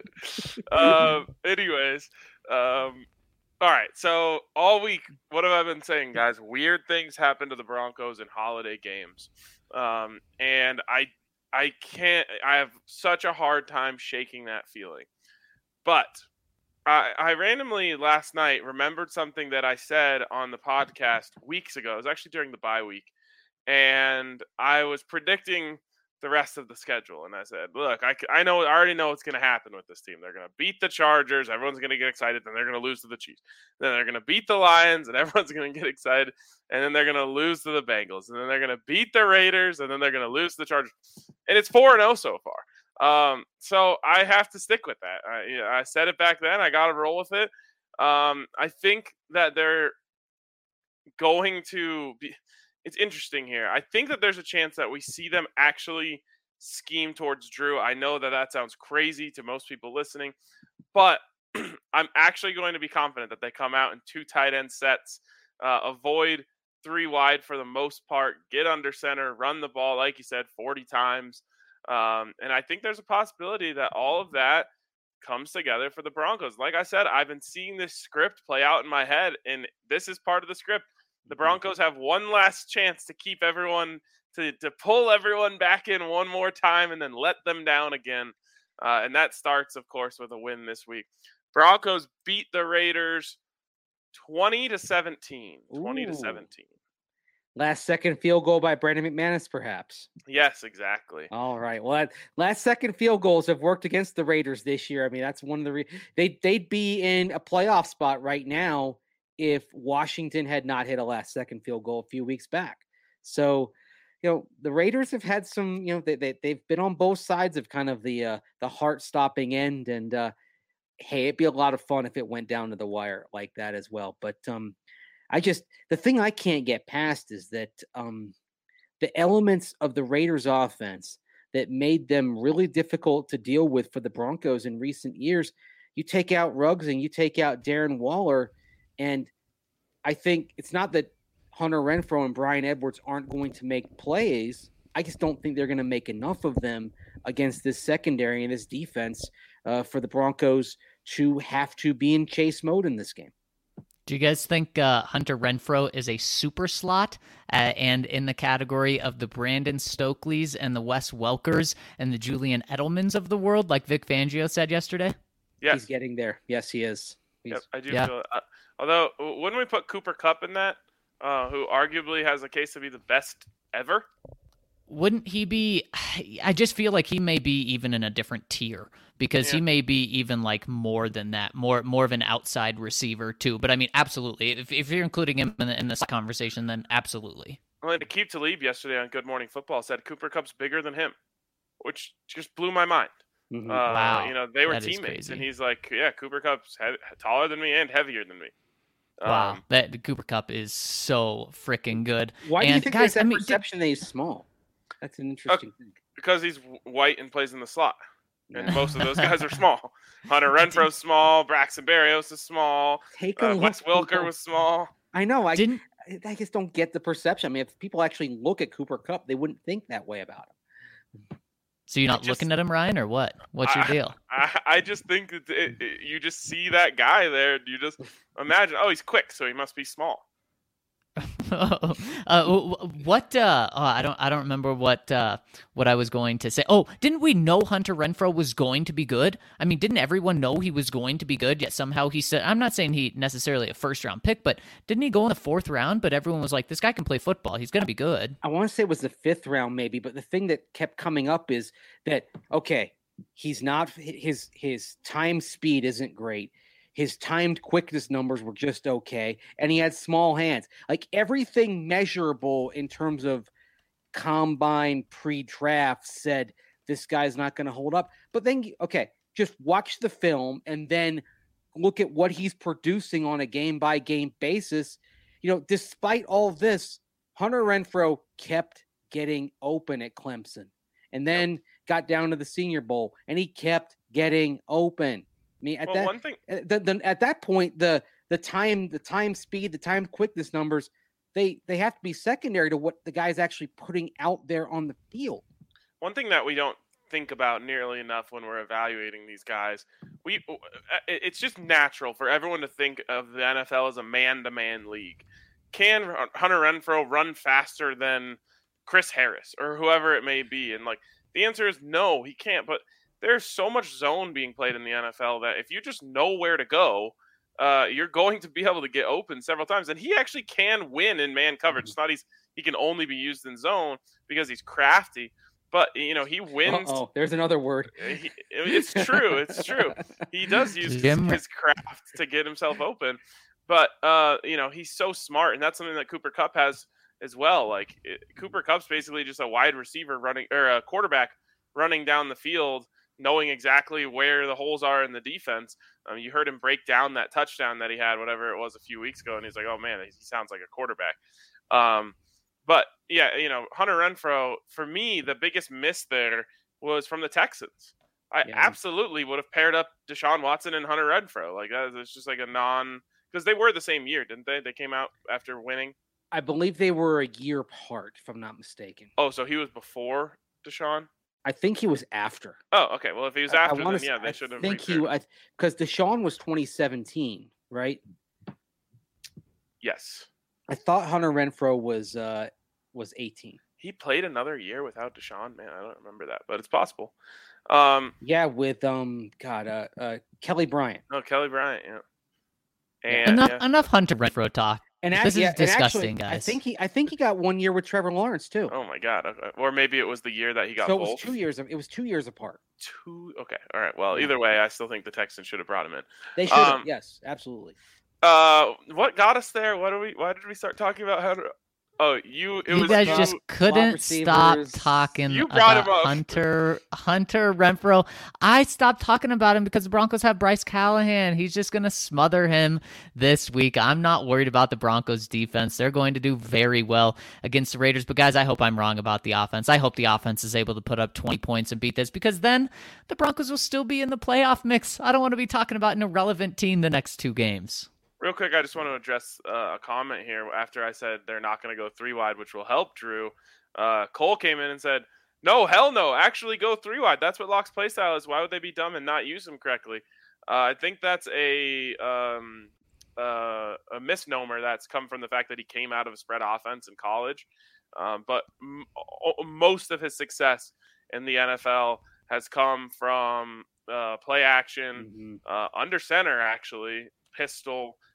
Anyways, all right. So all week, what have I been saying, guys? Weird things happen to the Broncos in holiday games, and I can't. I have such a hard time shaking that feeling. But I randomly last night remembered something that I said on the podcast weeks ago. It was actually during the bye week, and I was predicting the rest of the schedule. And I said, look, I already know what's going to happen with this team. They're going to beat the Chargers. Everyone's going to get excited. Then they're going to lose to the Chiefs. Then they're going to beat the Lions, and everyone's going to get excited. And then they're going to lose to the Bengals. And then they're going to beat the Raiders, and then they're going to lose to the Chargers. And it's 4-0 so far. So I have to stick with that. I said it back then. I got to roll with it. I think that they're going to be. It's interesting here. I think that there's a chance that we see them actually scheme towards Drew. I know that sounds crazy to most people listening, but I'm actually going to be confident that they come out in 2 tight end sets, avoid 3 wide for the most part, get under center, run the ball, like you said, 40 times. And I think there's a possibility that all of that comes together for the Broncos. Like I said, I've been seeing this script play out in my head, and this is part of the script. The Broncos have one last chance to keep everyone, to pull everyone back in one more time and then let them down again. And that starts, of course, with a win this week. Broncos beat the Raiders 20-17. 20-17. Last second field goal by Brandon McManus, perhaps. Yes, exactly. All right. Well, last second field goals have worked against the Raiders this year. I mean, that's one of the they'd be in a playoff spot right now if Washington had not hit a last second field goal a few weeks back. So, the Raiders have had some, they've been on both sides of kind of the heart stopping end, and hey, it'd be a lot of fun if it went down to the wire like that as well. But the thing I can't get past is that the elements of the Raiders offense that made them really difficult to deal with for the Broncos in recent years, you take out Ruggs and you take out Darren Waller, and I think it's not that Hunter Renfrow and Bryan Edwards aren't going to make plays. I just don't think they're going to make enough of them against this secondary and this defense for the Broncos to have to be in chase mode in this game. Do you guys think Hunter Renfrow is a super slot and in the category of the Brandon Stokeleys and the Wes Welkers and the Julian Edelmans of the world, like Vic Fangio said yesterday? Yes. He's getting there. Yes, he is. Yep, I do feel it. Although, wouldn't we put Cooper Kupp in that, who arguably has a case to be the best ever? Wouldn't he be? I just feel like he may be even in a different tier because he may be even like more than that, more of an outside receiver too. But I mean, absolutely. If you're including him in this conversation, then absolutely. Well, Aqib Talib yesterday on Good Morning Football said Cooper Kupp's bigger than him, which just blew my mind. Mhm. Wow. You know, they were That is teammates, crazy. and he's like, yeah, Cooper Kupp's taller than me and heavier than me. Wow, that Cooper Kupp is so freaking good. Why do you think guys, there's that perception that he's small? That's an interesting thing. Because he's white and plays in the slot. And most of those guys are small. Hunter Renfro's small. Braxton Berrios is small. Take a Wes look, Welker people. was small. I know. I Didn't just don't get the perception. I mean, if people actually look at Cooper Kupp, they wouldn't think that way about him. so you're not looking at him, Ryan, or what? What's your deal? I just think that you just see that guy there. You just imagine, oh, he's quick, so he must be small. I don't remember what I was going to say. Oh, didn't we know Hunter Renfrow was going to be good? I mean, didn't everyone know he was going to be good? Yet somehow he said, I'm not saying he necessarily a first round pick, but didn't he go in the 4th round? But everyone was like, this guy can play football. He's going to be good. I want to say it was the 5th round, maybe. But the thing that kept coming up is that, okay, he's not, his time speed isn't great. His timed quickness numbers were just okay. And he had small hands. Like everything measurable in terms of combine pre-draft said this guy's not going to hold up. But then, okay, just watch the film and then look at what he's producing on a game-by-game basis. You know, despite all of this, Hunter Renfrow kept getting open at Clemson and then got down to the Senior Bowl, and he kept getting open. I mean, at that point, the time speed, the time quickness numbers, they have to be secondary to what the guy's actually putting out there on the field. One thing that we don't think about nearly enough when we're evaluating these guys, it's just natural for everyone to think of the NFL as a man-to-man league. Can Hunter Renfrow run faster than Chris Harris or whoever it may be? And like the answer is no, he can't. But there's so much zone being played in the NFL that if you just know where to go, you're going to be able to get open several times. And he actually can win in man coverage. It's not he can only be used in zone because he's crafty. But, you know, he wins. Oh, there's another word. It's true. It's true. He does use his craft to get himself open. But, you know, he's so smart. And that's something that Cooper Kupp has as well. Like, Cooper Kupp's basically just a wide receiver running, or a quarterback running down the field, knowing exactly where the holes are in the defense. You heard him break down that touchdown that he had, whatever it was, a few weeks ago, and he's like, oh, man, he sounds like a quarterback. But, yeah, you know, Hunter Renfrow, for me, the biggest miss there was from the Texans. I absolutely would have paired up Deshaun Watson and Hunter Renfrow. Like, it's just like a because they were the same year, didn't they? They came out after winning. I believe they were a year apart, if I'm not mistaken. Oh, so he was before Deshaun? I think he was after. Oh, okay. Well, if he was after, then yeah, they should have. I think because Deshaun was 2017, right? Yes. I thought Hunter Renfrow was 18. He played another year without Deshaun. Man, I don't remember that, but it's possible. Yeah, with Kelly Bryant. Oh, Kelly Bryant. Yeah. And, enough Hunter Renfrow talk. And this is disgusting, actually, guys. I think he got 1 year with Trevor Lawrence too. Oh my God! Okay. Or maybe it was the year that he got so both. It was 2 years. It was 2 years apart. Okay. All right. Well, either way, I still think the Texans should have brought him in. They should have. Yes, absolutely. What got us there? Why did we start talking about Hunter? Oh, you guys just couldn't stop talking about Hunter Renfrow. I stopped talking about him because the Broncos have Bryce Callahan. He's just going to smother him this week. I'm not worried about the Broncos defense. They're going to do very well against the Raiders. But guys, I hope I'm wrong about the offense. I hope the offense is able to put up 20 points and beat this, because then the Broncos will still be in the playoff mix. I don't want to be talking about an irrelevant team the next 2 games. Real quick, I just want to address a comment here after I said they're not going to go 3 wide, which will help Drew. Cole came in and said, no, hell no, actually go 3 wide. That's what Locke's play style is. Why would they be dumb and not use him correctly? I think that's a misnomer that's come from the fact that he came out of a spread offense in college. But most of his success in the NFL has come from play action, under center, actually, pistol,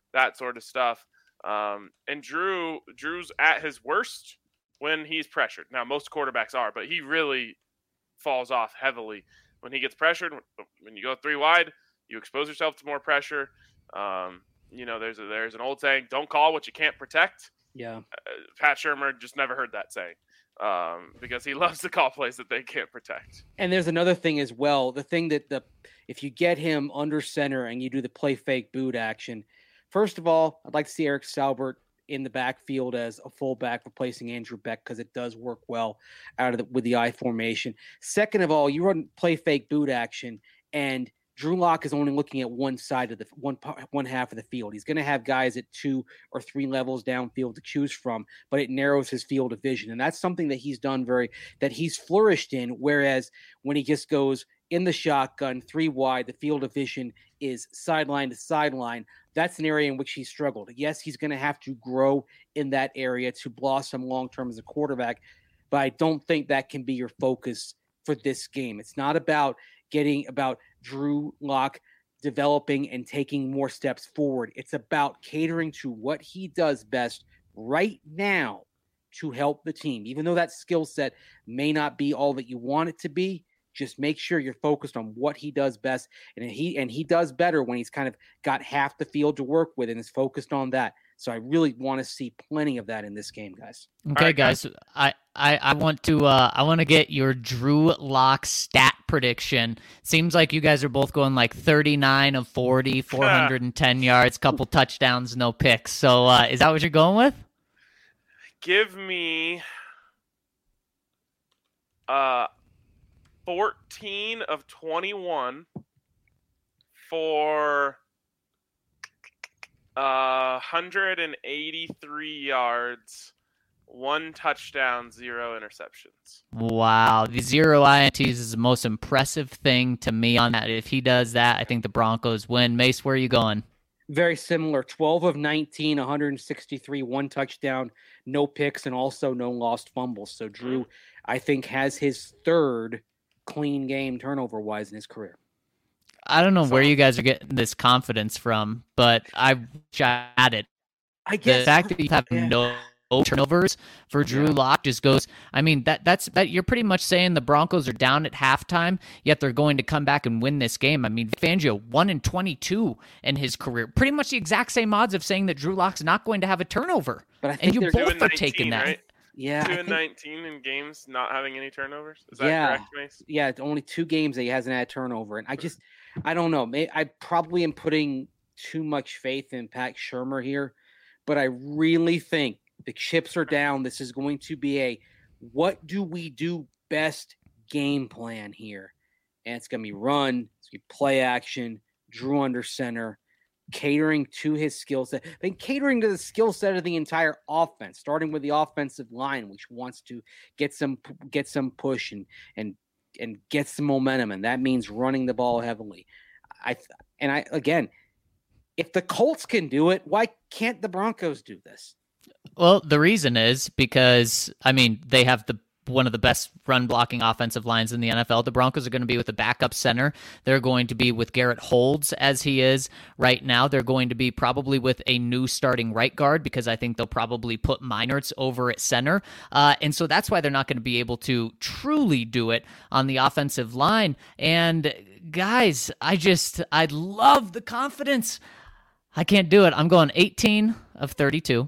that sort of stuff. And Drew's at his worst when he's pressured. Now, most quarterbacks are, but he really falls off heavily when he gets pressured. When you go 3 wide, you expose yourself to more pressure. There's an old saying, don't call what you can't protect. Yeah. Pat Shurmur just never heard that saying because he loves to call plays that they can't protect. And there's another thing as well. The thing that if you get him under center and you do the play fake boot action, first of all, I'd like to see Eric Saubert in the backfield as a fullback replacing Andrew Beck because it does work well with the I formation. Second of all, you run play fake boot action and Drew Lock is only looking at one side of the one half of the field. He's going to have guys at 2 or 3 levels downfield to choose from, but it narrows his field of vision. And that's something that he's done that he's flourished in. Whereas when he just goes in the shotgun 3 wide, the field of vision is sideline to sideline. That's an area in which he struggled. Yes, he's going to have to grow in that area to blossom long-term as a quarterback, but I don't think that can be your focus for this game. It's not about Drew Lock developing and taking more steps forward. It's about catering to what he does best right now to help the team. Even though that skill set may not be all that you want it to be, just make sure you're focused on what he does best. And he does better when he's kind of got half the field to work with and is focused on that. So I really want to see plenty of that in this game, guys. Okay, right, guys. I want to get your Drew Lock stat prediction. Seems like you guys are both going like 39 of 40, 410 yards, couple touchdowns, no picks. So is that what you're going with? Give me 14 of 21 for 183 yards, 1 touchdown, 0 interceptions. Wow. The 0 INTs is the most impressive thing to me on that. If he does that, I think the Broncos win. Mace, where are you going? Very similar. 12 of 19, 163, 1 touchdown, no picks, and also no lost fumbles. So Drew, I think, has his 3rd clean game turnover-wise in his career. I don't know where you guys are getting this confidence from, but I had it. I guess the fact that you have no turnovers for Drew Lock just goes. I mean, that's you're pretty much saying the Broncos are down at halftime, yet they're going to come back and win this game. I mean, Fangio 1-22 in his career, pretty much the exact same odds of saying that Drew Lock's not going to have a turnover. But I think and you both are taking that. Right? Yeah, 2-19 in games not having any turnovers. Is that correct, Mace? Yeah, it's only 2 games that he hasn't had a turnover, and I don't know. I probably am putting too much faith in Pat Shurmur here, but I really think the chips are down. This is going to be a what do we do best game plan here, and it's going to be run, it's going to be play action, Drew under center, catering to his skill set, then catering to the skill set of the entire offense, starting with the offensive line, which wants to get some push and get some momentum, and that means running the ball heavily. Again, if the Colts can do it, why can't the Broncos do this? Well, the reason is because, I mean, they have one of the best run blocking offensive lines in the NFL. The Broncos are going to be with a backup center. They're going to be with Garrett Holds as he is right now. They're going to be probably with a new starting right guard because I think they'll probably put Meinertz over at center. And so that's why they're not going to be able to truly do it on the offensive line. And guys, I love the confidence. I can't do it. I'm going 18 of 32,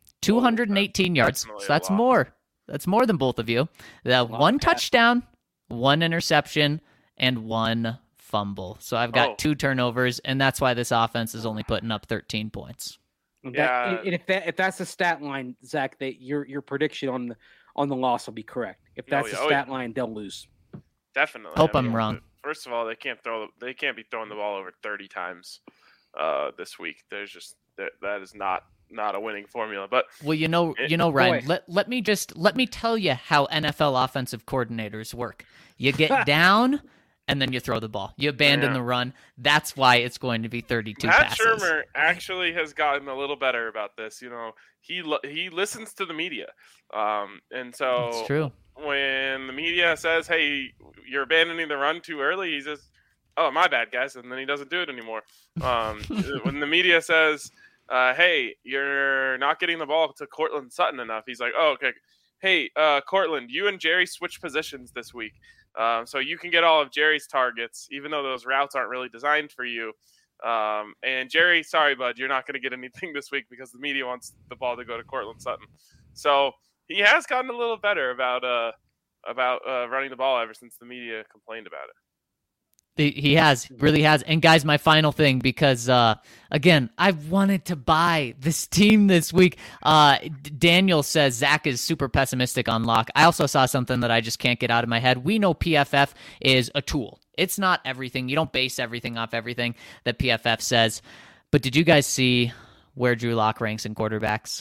218 yards. So that's more. That's more than both of you. One touchdown, 1 interception, and 1 fumble. So I've got 2 turnovers, and that's why this offense is only putting up 13 points. Yeah. If that's the stat line, Zach, that your prediction on the loss will be correct. If that's the stat line, they'll lose. Definitely. Hope I'm wrong. First of all, they can't be throwing the ball over 30 times this week. There's just that is not a winning formula. But Ryan, let me tell you how NFL offensive coordinators work. You get down and then you throw the ball. You abandon the run. That's why it's going to be 32 passes. Pat Shurmur actually has gotten a little better about this. You know, he listens to the media. And so that's true. When the media says, "Hey, you're abandoning the run too early," he says, "Oh, my bad, guys," and then he doesn't do it anymore. When the media says, hey, you're not getting the ball to Cortland Sutton enough. He's like, oh, okay. Hey, Cortland, you and Jerry switch positions this week. So you can get all of Jerry's targets, even though those routes aren't really designed for you. And Jerry, sorry, bud, you're not going to get anything this week because the media wants the ball to go to Cortland Sutton. So he has gotten a little better about running the ball ever since the media complained about it. He really has. And guys, my final thing, because again, I wanted to buy this team this week. Daniel says Zach is super pessimistic on Locke. I also saw something that I just can't get out of my head. We know PFF is a tool. It's not everything. You don't base everything off everything that PFF says. But did you guys see where Drew Lock ranks in quarterbacks?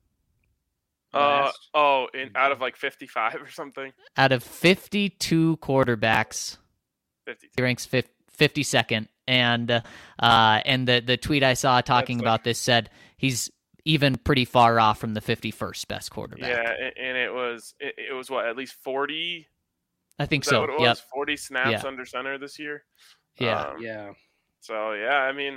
Out of like 55 or something. Out of 52 quarterbacks, 52. he ranks 52nd. And the tweet I saw talking about this said he's even pretty far off from the 51st best quarterback. Yeah, and it was what, at least 40? I think Is that so. what it was? Yep. 40 snaps under center this year. Yeah. So yeah, I mean,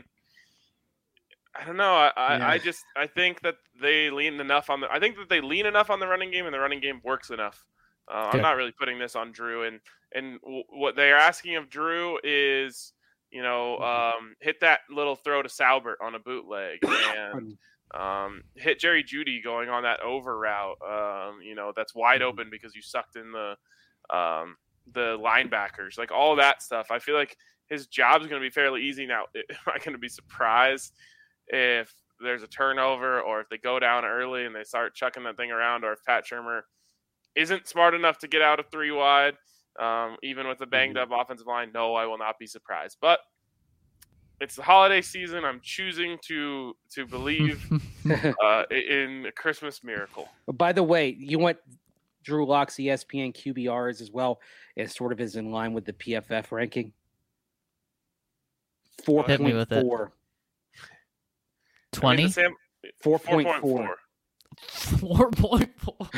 I don't know. I think that they lean enough on the running game, and the running game works enough. I'm not really putting this on Drew, and what they're asking of Drew is, hit that little throw to Saubert on a bootleg, and hit Jerry Jeudy going on that over route. That's wide open because you sucked in the linebackers, like all that stuff. I feel like his job is going to be fairly easy now. Am I going to be surprised if there's a turnover, or if they go down early and they start chucking that thing around, or if Pat Shurmur isn't smart enough to get out of 3 wide, even with a banged up offensive line? No, I will not be surprised. But it's the holiday season. I'm choosing to believe in a Christmas miracle. By the way, you went Drew Lock's ESPN QBRs as well. It sort of is in line with the PFF ranking. 4.4. 20? 4.4. 4.4.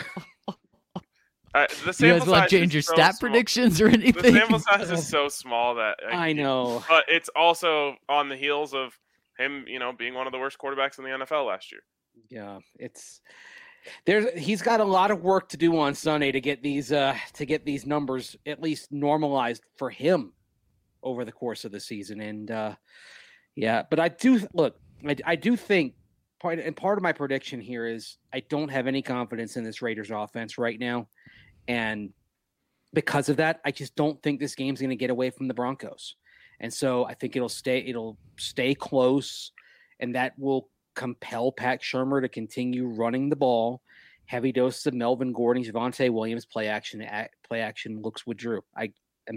You guys want to change your stat predictions or anything? The sample size is so small that I know. But it's also on the heels of him, being one of the worst quarterbacks in the NFL last year. Yeah, he's got a lot of work to do on Sunday to get these numbers at least normalized for him over the course of the season. And but I do think part of my prediction here is I don't have any confidence in this Raiders offense right now. And because of that, I just don't think this game's going to get away from the Broncos. And so I think it'll stay close, and that will compel Pat Shurmur to continue running the ball. Heavy doses of Melvin Gordon, Javonte Williams, play action looks with Drew. I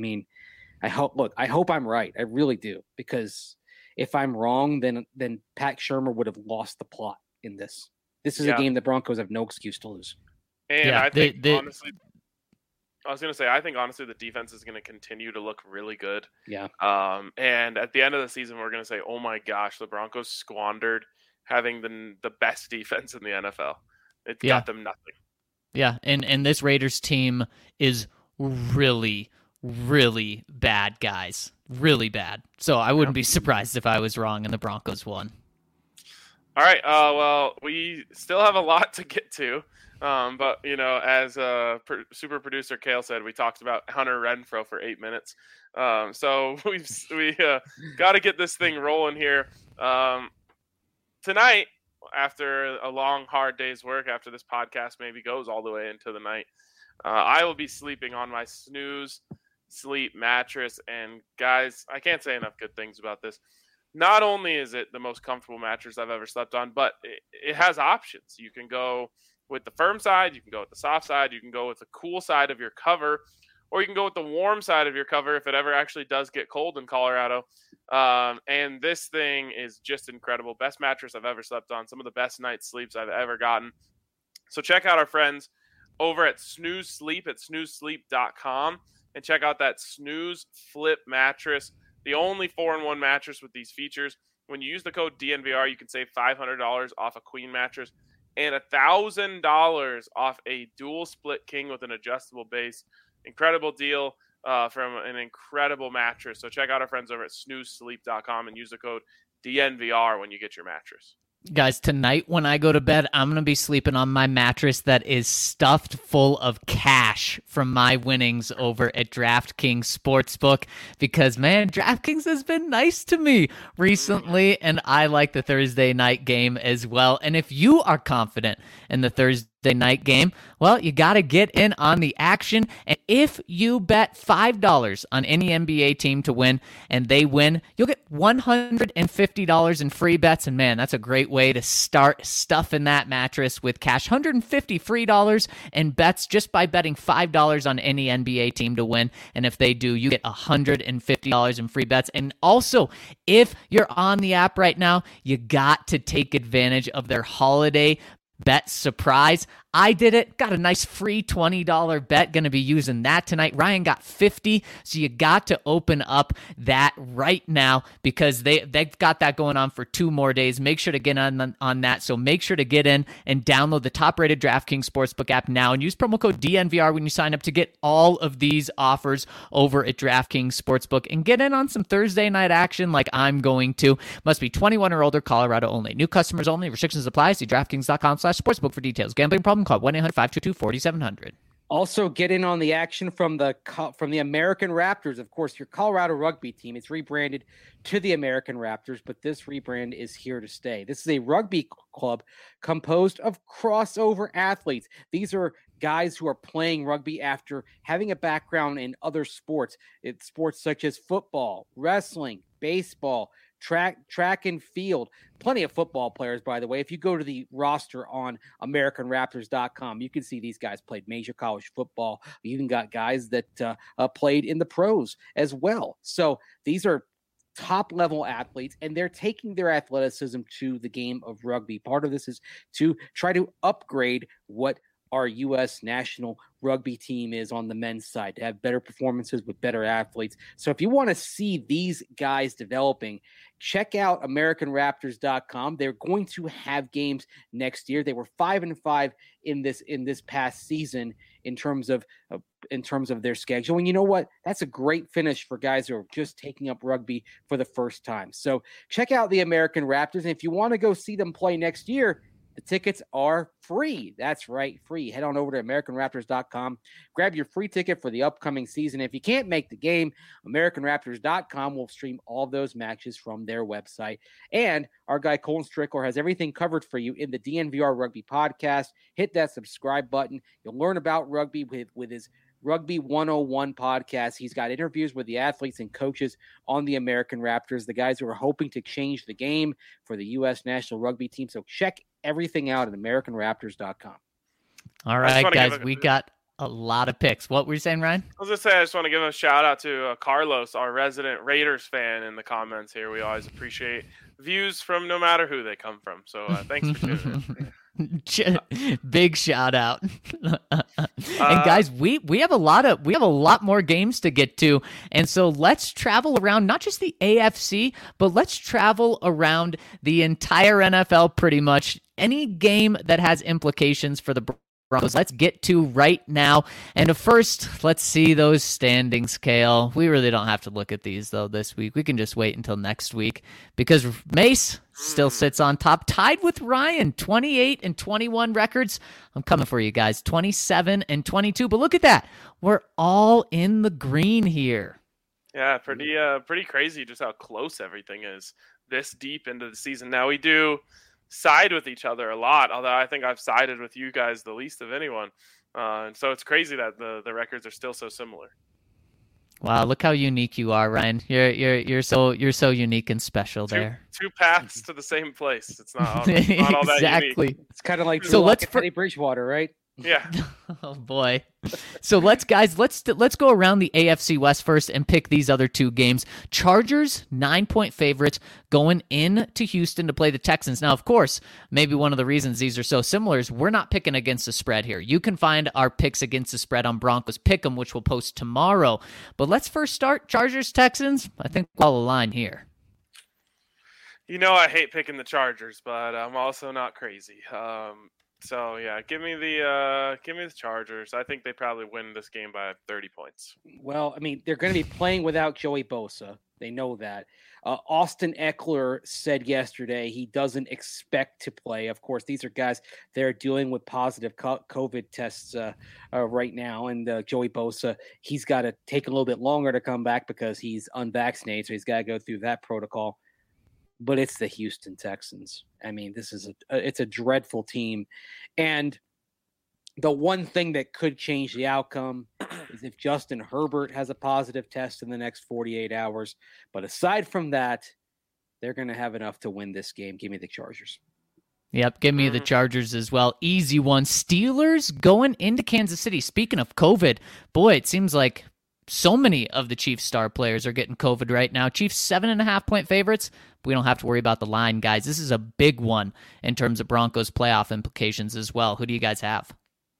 hope I'm right. I really do, because if I'm wrong, then Pat Shurmur would have lost the plot in this. This is a game the Broncos have no excuse to lose. And I think honestly, I was going to say, I think honestly the defense is going to continue to look really good. Yeah. And at the end of the season, we're going to say, oh my gosh, the Broncos squandered having the best defense in the NFL. It got them nothing. Yeah, and this Raiders team is really, really bad, guys. Really bad. So I wouldn't be surprised if I was wrong and the Broncos won. All right. Well, we still have a lot to get to. But, as super producer Kale said, we talked about Hunter Renfrow for 8 minutes. So we got to get this thing rolling here. Tonight, after a long, hard day's work, after this podcast maybe goes all the way into the night, I will be sleeping on my Snooze Sleep mattress. And guys, I can't say enough good things about this. Not only is it the most comfortable mattress I've ever slept on, but it has options. You can go with the firm side, you can go with the soft side, you can go with the cool side of your cover, or you can go with the warm side of your cover if it ever actually does get cold in Colorado. And this thing is just incredible. Best mattress I've ever slept on. Some of the best night's sleeps I've ever gotten. So check out our friends over at Snooze Sleep at snoozesleep.com and check out that Snooze Flip mattress, the only 4-in-1 mattress with these features. When you use the code DNVR, you can save $500 off a queen mattress and $1,000 off a dual split king with an adjustable base. Incredible deal from an incredible mattress. So check out our friends over at snoozesleep.com and use the code DNVR when you get your mattress. Guys, tonight when I go to bed, I'm going to be sleeping on my mattress that is stuffed full of cash from my winnings over at DraftKings Sportsbook because, man, DraftKings has been nice to me recently, and I like the Thursday night game as well. And if you are confident in the Thursday night game, well, you got to get in on the action. And if you bet $5 on any NBA team to win and they win, you'll get $150 in free bets. And man, that's a great way to start stuffing that mattress with cash. $150 free dollars in bets just by betting $5 on any NBA team to win. And if they do, you get $150 in free bets. And also, if you're on the app right now, you got to take advantage of their holiday bet surprise. I did it. Got a nice free $20 bet. Going to be using that tonight. Ryan got 50. So you got to open up that right now because they've got that going on for 2 more days. Make sure to get on that. So make sure to get in and download the top-rated DraftKings Sportsbook app now and use promo code DNVR when you sign up to get all of these offers over at DraftKings Sportsbook and get in on some Thursday night action like I'm going to. Must be 21 or older, Colorado only. New customers only. Restrictions apply. See DraftKings.com/sportsbook for details. Gambling problem? Call 1-800-522-4700. Also, get in on the action from the American Raptors. Of course, your Colorado rugby team. It's rebranded to the American Raptors, but this rebrand is here to stay. This is a rugby club composed of crossover athletes. These are guys who are playing rugby after having a background in other sports. It's sports such as football, wrestling, baseball, track and field. Plenty of football players, by the way. If you go to the roster on AmericanRaptors.com, you can see these guys played major college football. You even got guys that played in the pros as well. So these are top-level athletes, and they're taking their athleticism to the game of rugby. Part of this is to try to upgrade what our U.S. national rugby team is on the men's side, to have better performances with better athletes. So if you want to see these guys developing, check out AmericanRaptors.com. They're going to have games next year. They were 5-5 in this past season in terms of their schedule. And you know what? That's a great finish for guys who are just taking up rugby for the first time. So check out the American Raptors. And if you want to go see them play next year, the tickets are free. That's right, free. Head on over to AmericanRaptors.com. Grab your free ticket for the upcoming season. If you can't make the game, AmericanRaptors.com will stream all those matches from their website. And our guy Colin Strickler has everything covered for you in the DNVR Rugby podcast. Hit that subscribe button. You'll learn about rugby with his Rugby 101 podcast. He's got interviews with the athletes and coaches on the American Raptors, the guys who are hoping to change the game for the U.S. national rugby team. So check everything out at AmericanRaptors.com. All right, guys, we got a lot of picks. What were you saying, Ryan? I was going to say, I just want to give a shout out to Carlos, our resident Raiders fan in the comments here. We always appreciate views from no matter who they come from. So thanks for tuning in. Big shout out. And guys, we have a lot more games to get to, and so let's travel around not just the AFC, but let's travel around the entire NFL. Pretty much any game that has implications for the Broncos, let's get to right now. And first, let's see those standings, Kale. We really don't have to look at these, though, this week. We can just wait until next week because Mace still sits on top, tied with Ryan, 28-21 records. I'm coming for you guys, 27-22. But look at that. We're all in the green here. Yeah, pretty crazy just how close everything is this deep into the season. Now, we do side with each other a lot, although I think I've sided with you guys the least of anyone. And so it's crazy that the records are still so similar. Wow, look how unique you are, Ryan. You're so unique and special there. Two paths to the same place. It's not all that exactly. unique. It's kind of like Teddy Bridgewater, right? Yeah. Oh boy. So let's go around the AFC West first and pick these other two games. Chargers 9-point favorites going into Houston to play the Texans. Now, of course, maybe one of the reasons these are so similar is we're not picking against the spread here. You can find our picks against the spread on Broncos Pick'em, which we'll post tomorrow. But let's first start Chargers Texans. I think we'll align here. You know, I hate picking the Chargers, but I'm also not crazy. So yeah, give me the Chargers. I think they probably win this game by 30 points. Well, I mean, they're going to be playing without Joey Bosa. They know that. Austin Eckler said yesterday he doesn't expect to play. Of course, these are guys that are dealing with positive COVID tests right now. And Joey Bosa, he's got to take a little bit longer to come back because he's unvaccinated. So he's got to go through that protocol. But it's the Houston Texans. I mean, it's a dreadful team. And the one thing that could change the outcome is if Justin Herbert has a positive test in the next 48 hours. But aside from that, they're going to have enough to win this game. Give me the Chargers. Yep, give me the Chargers as well. Easy one. Steelers going into Kansas City. Speaking of COVID, boy, it seems like so many of the Chiefs star players are getting COVID right now. Chiefs 7.5-point favorites. We don't have to worry about the line, guys. This is a big one in terms of Broncos playoff implications as well. Who do you guys have?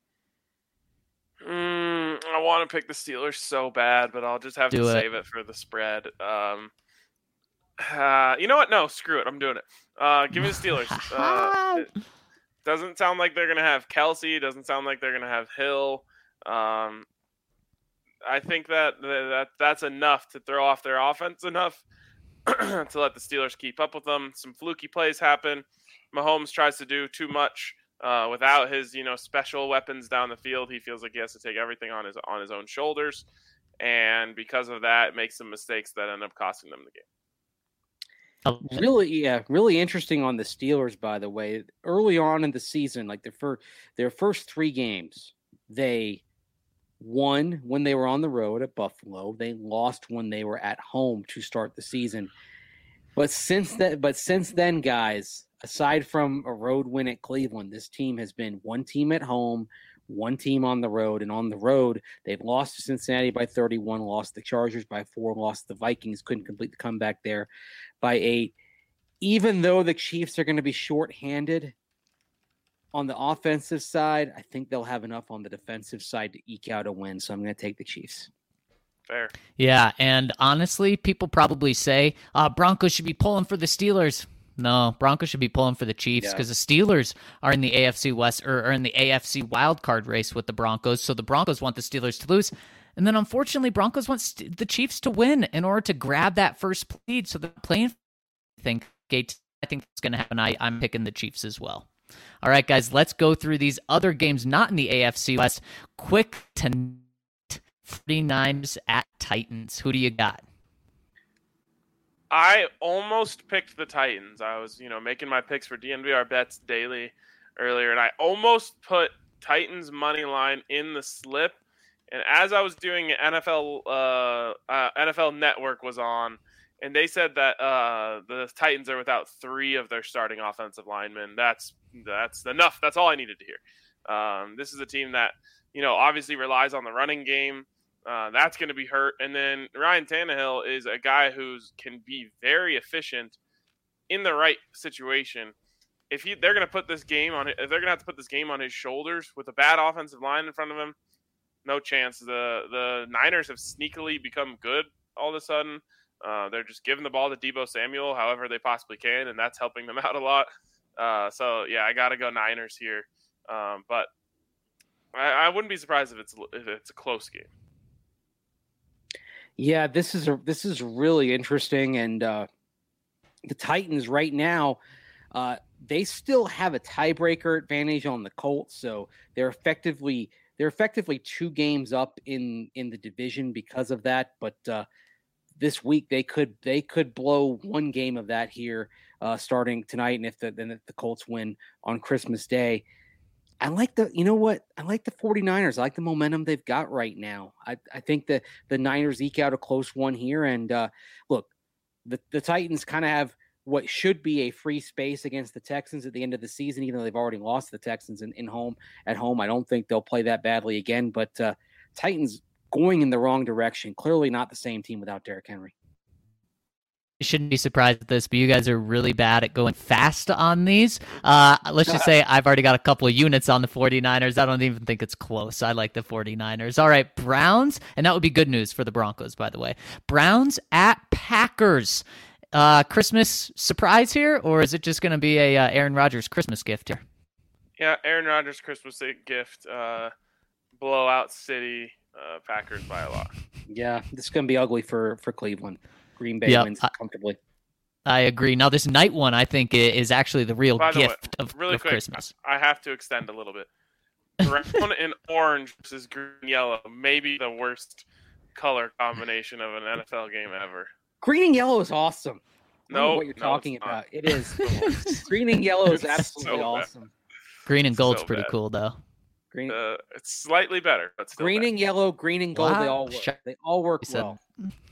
I want to pick the Steelers so bad, but I'll just have to save it for the spread. You know what? No, screw it. I'm doing it. Give me the Steelers. It doesn't sound like they're going to have Kelsey. Doesn't sound like they're going to have Hill. I think that's enough to throw off their offense enough to let the Steelers keep up with them. Some fluky plays happen. Mahomes tries to do too much without his, special weapons down the field. He feels like he has to take everything on his own shoulders, and because of that, it makes some mistakes that end up costing them the game. Really interesting on the Steelers, by the way. Early on in the season, like their first 3 games, they won when they were on the road at Buffalo. They lost when they were at home to start the season. But since then, guys, aside from a road win at Cleveland, this team has been one team at home, one team on the road. And on the road, they've lost to Cincinnati by 31, lost the Chargers by 4, lost the Vikings, couldn't complete the comeback there by 8. Even though the Chiefs are going to be shorthanded on the offensive side, I think they'll have enough on the defensive side to eke out a win. So I'm going to take the Chiefs. Fair. Yeah, and honestly, people probably say Broncos should be pulling for the Steelers. No, Broncos should be pulling for the Chiefs because the Steelers are in the AFC West or are in the AFC wildcard race with the Broncos. So the Broncos want the Steelers to lose. And then unfortunately, Broncos want the Chiefs to win in order to grab that first lead. So they're playing. I think it's going to happen. I'm picking the Chiefs as well. All right, guys, let's go through these other games not in the AFC West. Quick tonight, 49ers at Titans. Who do you got? I almost picked the Titans. I was, making my picks for DNVR Bets Daily earlier, and I almost put Titans money line in the slip. And as I was doing it, NFL Network was on, and they said that the Titans are without 3 of their starting offensive linemen. That's enough. That's all I needed to hear. This is a team that, obviously relies on the running game. That's going to be hurt. And then Ryan Tannehill is a guy who can be very efficient in the right situation. If they're going to put this game on, if they're going to have to put this game on his shoulders with a bad offensive line in front of him, no chance. The Niners have sneakily become good all of a sudden. They're just giving the ball to Deebo Samuel however they possibly can, and that's helping them out a lot. So yeah, I got to go Niners here. But I wouldn't be surprised if it's a close game. Yeah, this is really interesting, and the Titans right now, they still have a tiebreaker advantage on the Colts, so they're effectively 2 games up in the division because of that. But this week they could blow 1 game of that here starting tonight, and if the Colts win on Christmas Day. I like the 49ers. I like the momentum they've got right now. I think that the Niners eke out a close one here. And look, the Titans kind of have what should be a free space against the Texans at the end of the season, even though they've already lost the Texans at home. I don't think they'll play that badly again. But Titans going in the wrong direction. Clearly not the same team without Derrick Henry. Shouldn't be surprised at this, but you guys are really bad at going fast on these. Let's just say I've already got a couple of units on the 49ers. I don't even think it's close. I like the 49ers. All right, Browns, and that would be good news for the Broncos, by the way. Browns at Packers. Christmas surprise here, or is it just going to be a Aaron Rodgers Christmas gift here? Yeah, Aaron Rodgers Christmas gift. Blowout City. Packers by a lot. Yeah, this is going to be ugly for Cleveland. Green Bay Yep, wins comfortably. I agree. Now, this night one, I think, is actually the real By the way, gift of really quick, Christmas. I have to extend a little bit. Brown and orange versus green and yellow. Maybe the worst color combination of an NFL game ever. Green and yellow is awesome. I don't know No, what you're talking it's about. not. It is. Green and yellow is It's absolutely so bad. awesome. Green and gold's So pretty bad. cool, though. Green, It's slightly better, but still green bad. and yellow, green and gold. They Wow. all work. They all work He said- well.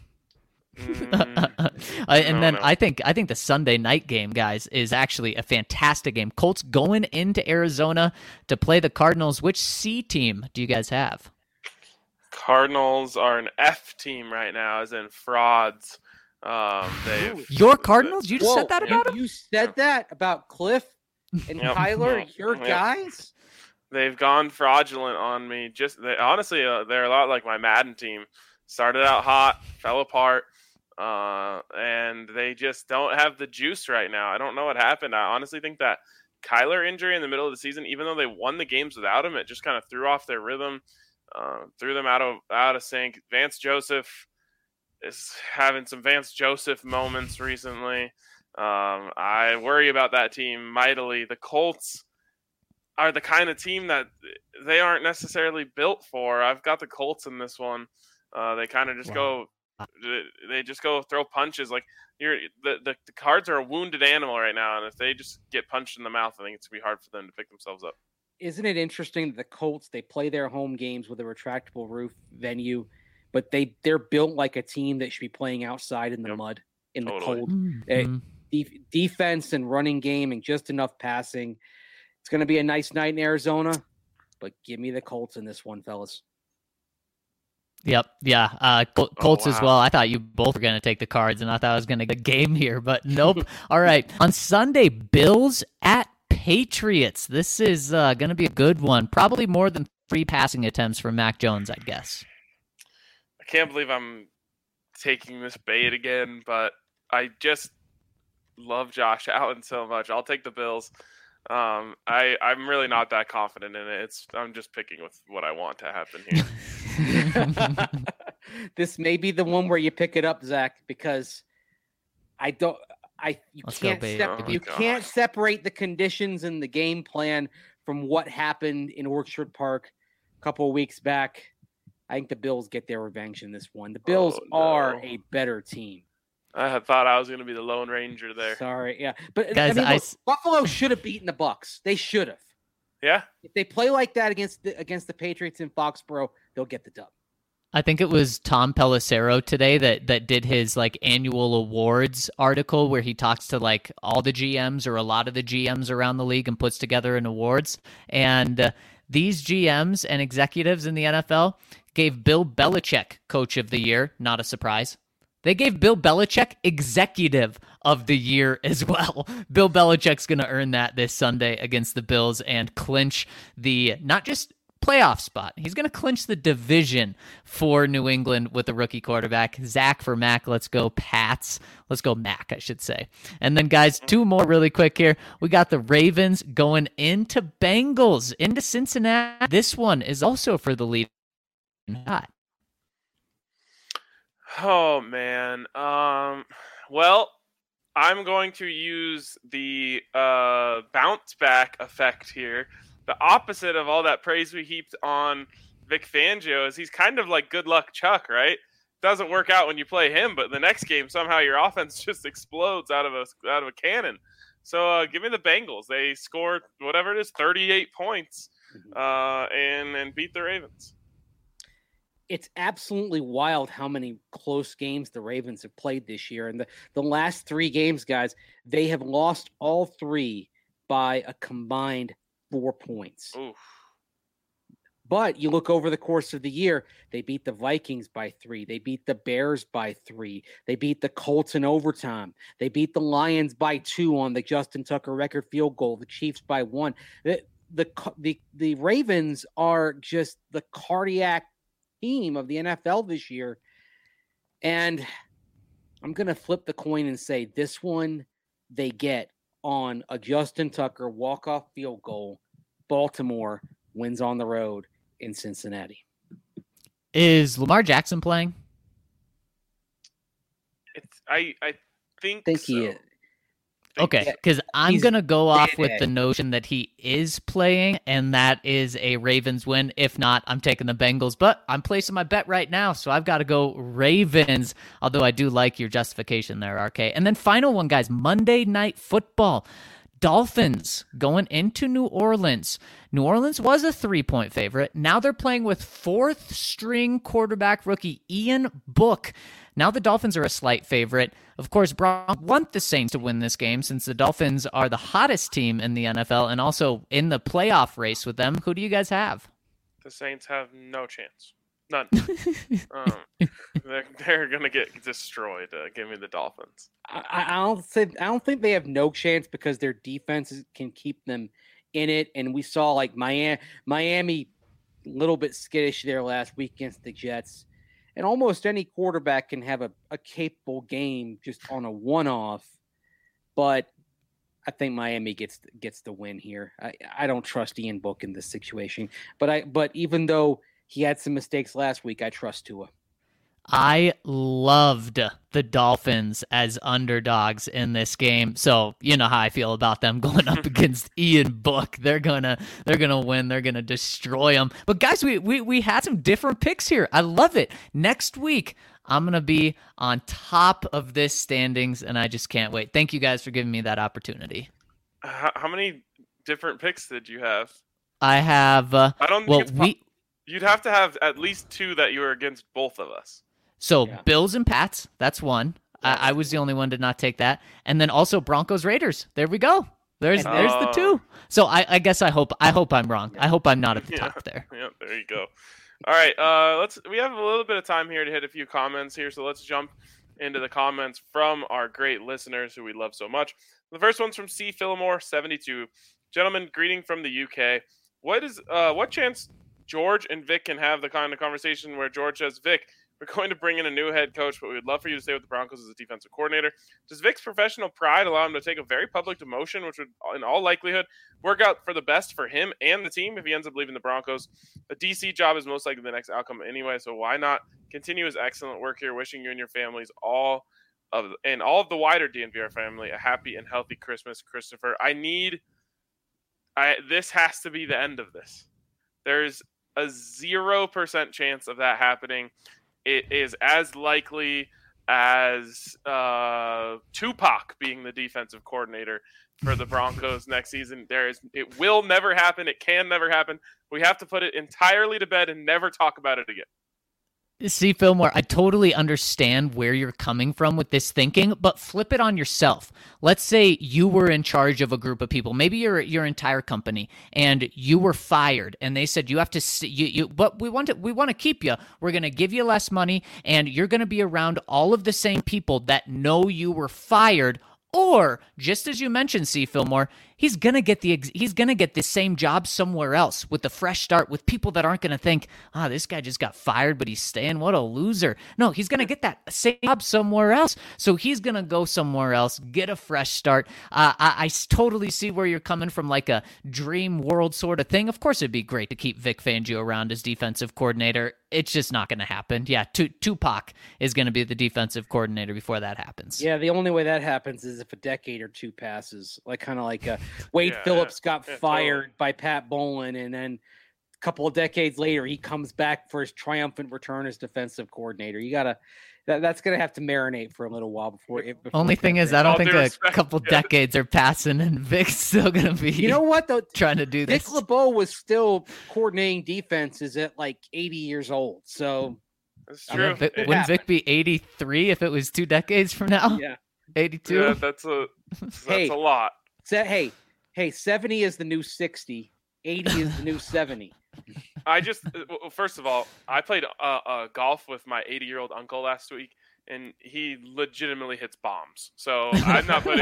No. I think the Sunday night game, guys, is actually a fantastic game. Colts going into Arizona to play the Cardinals. Which C team do you guys have? Cardinals are an F team right now, as in frauds. Your Cardinals? You just Whoa, said that about them? You said that about Cliff and Yep. Kyler, your Yep. guys? They've gone fraudulent on me. Honestly, they're a lot like my Madden team. Started out hot, fell apart, and they just don't have the juice right now. I don't know what happened. I honestly think that Kyler injury in the middle of the season, even though they won the games without him, it just kind of threw off their rhythm, threw them out of sync. Vance Joseph is having some Vance Joseph moments recently. I worry about that team mightily. The Colts are the kind of team that they aren't necessarily built for. I've got the Colts in this one. They kind of just they just go throw punches. Like the Cards are a wounded animal right now, and if they just get punched in the mouth, I think it's gonna be hard for them to pick themselves up. Isn't it interesting that the Colts, they play their home games with a retractable roof venue, but they're built like a team that should be playing outside in the Yep. mud, in the Totally. cold. Mhm. Defense and running game and just enough passing. It's going to be a nice night in Arizona, but give me the Colts in this one, fellas. Yep. Yeah. Colts as wow. well. I thought you both were going to take the Cards, and I thought I was going to get a game here, but nope. All right. On Sunday, Bills at Patriots. This is going to be a good one. Probably more than 3 passing attempts for Mac Jones, I'd guess. I can't believe I'm taking this bait again, but I just love Josh Allen so much. I'll take the Bills. I'm really not that confident in it. I'm just picking with what I want to happen here. This may be the one where you pick it up, Zach, because you Let's go, can't baby. you Oh, can't God. separate the conditions and the game plan from what happened in Orchard Park a couple of weeks back. I think the Bills get their revenge in this one. The Bills no. are a better team. I had thought I was going to be the Lone Ranger there. Sorry, yeah, but Guys, I mean, look, Buffalo should have beaten the Bucks. They should have. Yeah, If they play like that against the Patriots in Foxborough, they'll get the dub. I think it was Tom Pelissero today that did his like annual awards article where he talks to like all the GMs or a lot of the GMs around the league and puts together an awards. And these GMs and executives in the NFL gave Bill Belichick Coach of the Year. Not a surprise. They gave Bill Belichick Executive of the Year as well. Bill Belichick's going to earn that this Sunday against the Bills and clinch the not just playoff spot. He's going to clinch the division for New England with the rookie quarterback. Zach for Mac. Let's go Pats. Let's go Mac, I should say. And then, guys, 2 more really quick here. We got the Ravens going into Bengals, into Cincinnati. This one is also for the lead. Oh man. Well, I'm going to use the bounce back effect here. The opposite of all that praise we heaped on Vic Fangio is he's kind of like good luck Chuck, right? Doesn't work out when you play him, but the next game somehow your offense just explodes out of a cannon. So give me the Bengals. They scored whatever it is, 38 points, and beat the Ravens. It's absolutely wild how many close games the Ravens have played this year. And the last 3 games, guys, they have lost all 3 by a combined 4 points. Oof. But you look over the course of the year, they beat the Vikings by 3. They beat the Bears by 3. They beat the Colts in overtime. They beat the Lions by 2 on the Justin Tucker record field goal. The Chiefs by 1. The Ravens are just the cardiac team of the NFL this year. And I'm going to flip the coin and say this one they get on a Justin Tucker walk-off field goal Baltimore wins on the road in Cincinnati. Is Lamar Jackson playing? I think so. He is. Okay, because I'm going to go off with the notion that he is playing, and that is a Ravens win. If not, I'm taking the Bengals, but I'm placing my bet right now, so I've got to go Ravens, although I do like your justification there, RK. And then final one, guys, Monday Night Football. Dolphins going into New Orleans. New Orleans was a 3-point favorite. Now they're playing with fourth-string quarterback rookie Ian Book. Now the Dolphins are a slight favorite. Of course, Broncos want the Saints to win this game since the Dolphins are the hottest team in the NFL and also in the playoff race with them. Who do you guys have? The Saints have no chance. None. They're gonna get destroyed. Give me the Dolphins. I don't think they have no chance because their defense can keep them in it. And we saw like Miami a little bit skittish there last week against the Jets. And almost any quarterback can have a capable game just on a one-off. But I think Miami gets the win here. I don't trust Ian Book in this situation. But even though he had some mistakes last week, I trust Tua. I loved the Dolphins as underdogs in this game. So you know how I feel about them going up against Ian Book. They're gonna win. They're gonna destroy them. But guys, we had some different picks here. I love it. Next week, I'm gonna be on top of this standings, and I just can't wait. Thank you guys for giving me that opportunity. How many different picks did you have? I have. I don't think you'd have to have at least 2 that you were against both of us. So Bills and Pats, that's one. I was the only one to not take that. And then also Broncos Raiders. There we go. There's the 2. So I guess I hope I'm wrong. I hope I'm not at the top there. Yeah, there you go. All right, we have a little bit of time here to hit a few comments here, so let's jump into the comments from our great listeners who we love so much. The first one's from C. Fillmore 72. Gentlemen, greeting from the UK. What chance George and Vic can have the kind of conversation where George says, Vic, we're going to bring in a new head coach, but we would love for you to stay with the Broncos as a defensive coordinator. Does Vic's professional pride allow him to take a very public demotion, which would, in all likelihood, work out for the best for him and the team if he ends up leaving the Broncos? A DC job is most likely the next outcome anyway, so why not continue his excellent work here? Wishing you and your families all of the wider DNVR family a happy and healthy Christmas, Christopher. This has to be the end of this. There's a 0% chance of that happening. It is as likely as Tupac being the defensive coordinator for the Broncos next season. It will never happen. It can never happen. We have to put it entirely to bed and never talk about it again. See, Fillmore, I totally understand where you're coming from with this thinking, but flip it on yourself. Let's say you were in charge of a group of people, maybe your entire company, and you were fired, and they said you have to, but we want to keep you. We're going to give you less money, and you're going to be around all of the same people that know you were fired. Or, just as you mentioned, C. Fillmore, he's gonna get the same job somewhere else with a fresh start with people that aren't gonna think, this guy just got fired, but he's staying. What a loser! No, he's gonna get that same job somewhere else. So he's gonna go somewhere else, get a fresh start. I totally see where you're coming from, like a dream world sort of thing. Of course, it'd be great to keep Vic Fangio around as defensive coordinator. It's just not going to happen. Yeah, Tupac is going to be the defensive coordinator before that happens. Yeah, the only way that happens is if a decade or two passes, like Wade Phillips got fired by Pat Bowlen, and then a couple of decades later, he comes back for his triumphant return as defensive coordinator. That's going to have to marinate for a little while before Only thing is, I don't think a couple decades are passing, and Vic's still going to be. You know what though? Trying to do this. Vic LeBeau was still coordinating defenses at like 80 years old. So that's true. Wouldn't Vic be 83 if it was 2 decades from now? Yeah, 82. Yeah, that's a lot. 70 is the new 60. 80 is the new 70. First of all, I played golf with my 80-year-old uncle last week, and he legitimately hits bombs. So I'm not putting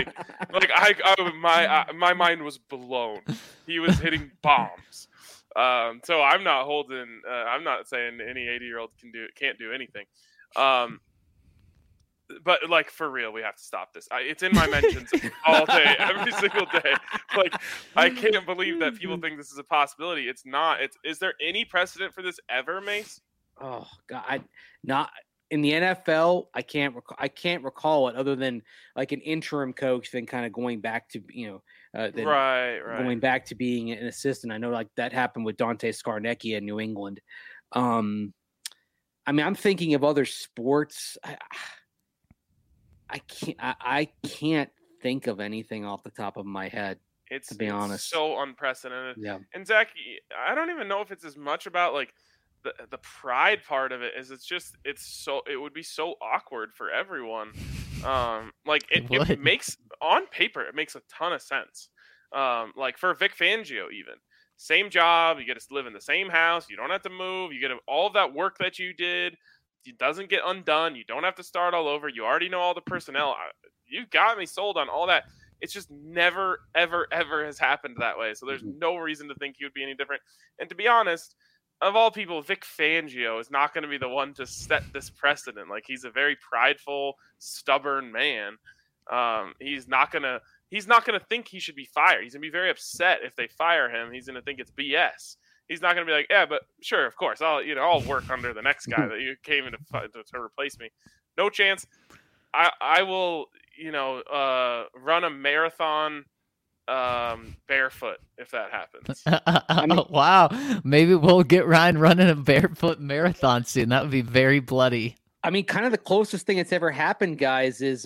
my mind was blown. He was hitting bombs. So I'm not I'm not saying any 80-year-old can't do anything. But like for real, we have to stop this. It's in my mentions all day, every single day. Like I can't believe that people think this is a possibility. It's not. Is there any precedent for this ever, Mace? Oh God, not in the NFL. I can't recall it other than like an interim coach, then kind of going back to Right. going back to being an assistant. I know like that happened with Dante Scarnecchia in New England. I mean, I'm thinking of other sports. I can't think of anything off the top of my head. It's to be honest, so unprecedented. Yeah. And Zach, I don't even know if it's as much about like the pride part of it as it would be so awkward for everyone. Like it makes on paper it makes a ton of sense. Like for Vic Fangio, even same job, you get to live in the same house, you don't have to move, you get all of that work that you did. It doesn't get undone. You don't have to start all over. You already know all the personnel. You got me sold on all that. It's just never, ever, ever has happened that way. So there's no reason to think he would be any different. And to be honest, of all people, Vic Fangio is not going to be the one to set this precedent. Like he's a very prideful, stubborn man. He's not gonna think he should be fired. He's gonna be very upset if they fire him. He's gonna think it's BS. He's not going to be like, yeah, but sure, of course, I'll work under the next guy that you came in to replace me. No chance. I will, run a marathon barefoot if that happens. Wow, maybe we'll get Ryan running a barefoot marathon soon. That would be very bloody. I mean, kind of the closest thing that's ever happened, guys, is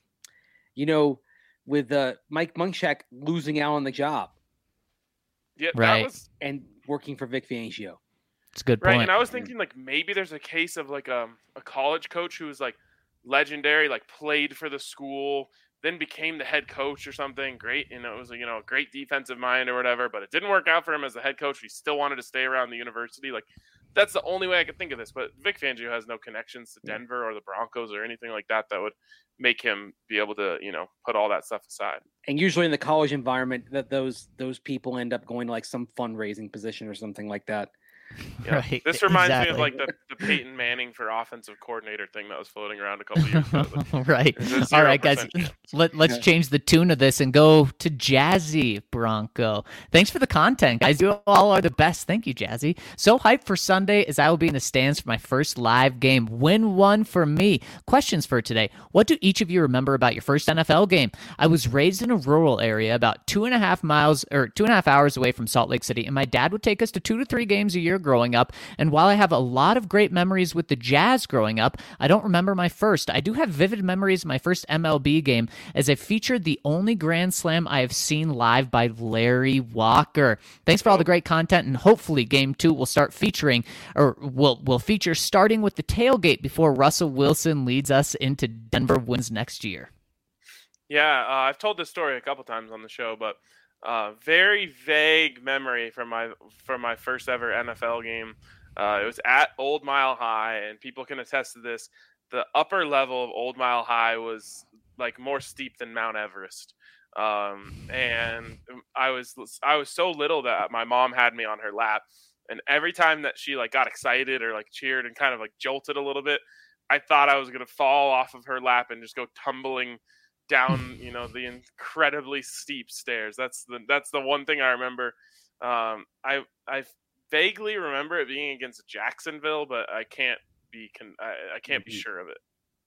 with Mike Munchak losing out on the job. Yeah, right. And working for Vic Fangio. It's a good point. Right, and I was thinking like maybe there's a case of like a college coach who was like legendary, like played for the school, then became the head coach or something. Great, it was a great defensive mind or whatever, but it didn't work out for him as the head coach. He still wanted to stay around the university. Like that's the only way I could think of this. But Vic Fangio has no connections to Denver or the Broncos or anything like that would make him be able to, put all that stuff aside. And usually in the college environment, that those people end up going to like some fundraising position or something like that. Yeah. Right. This reminds me of like the Peyton Manning for offensive coordinator thing that was floating around a couple of years ago. Right. All right, guys. Let's change the tune of this and go to Jazzy Bronco. Thanks for the content, guys. You all are the best. Thank you, Jazzy. So hyped for Sunday as I will be in the stands for my first live game. Win one for me. Questions for today. What do each of you remember about your first NFL game? I was raised in a rural area about 2.5 hours away from Salt Lake City, and my dad would take us to 2 to 3 games a year growing up. And while I have a lot of great memories with the Jazz growing up, I don't remember my first. I do have vivid memories of my first MLB game as I featured the only Grand Slam I have seen live by Larry Walker. Thanks for all the great content, and hopefully Game 2 will start featuring, or will feature starting with the tailgate before Russell Wilson leads us into Denver wins next year. Yeah, I've told this story a couple times on the show, but very vague memory from my first ever NFL game. It was at Old Mile High, and people can attest to this. The upper level of Old Mile High was like more steep than Mount Everest. And I was so little that my mom had me on her lap, and every time that she like got excited or like cheered and kind of like jolted a little bit, I thought I was going to fall off of her lap and just go tumbling down, the incredibly steep stairs. That's the one thing I remember. I vaguely remember it being against Jacksonville, but I can't be sure of it.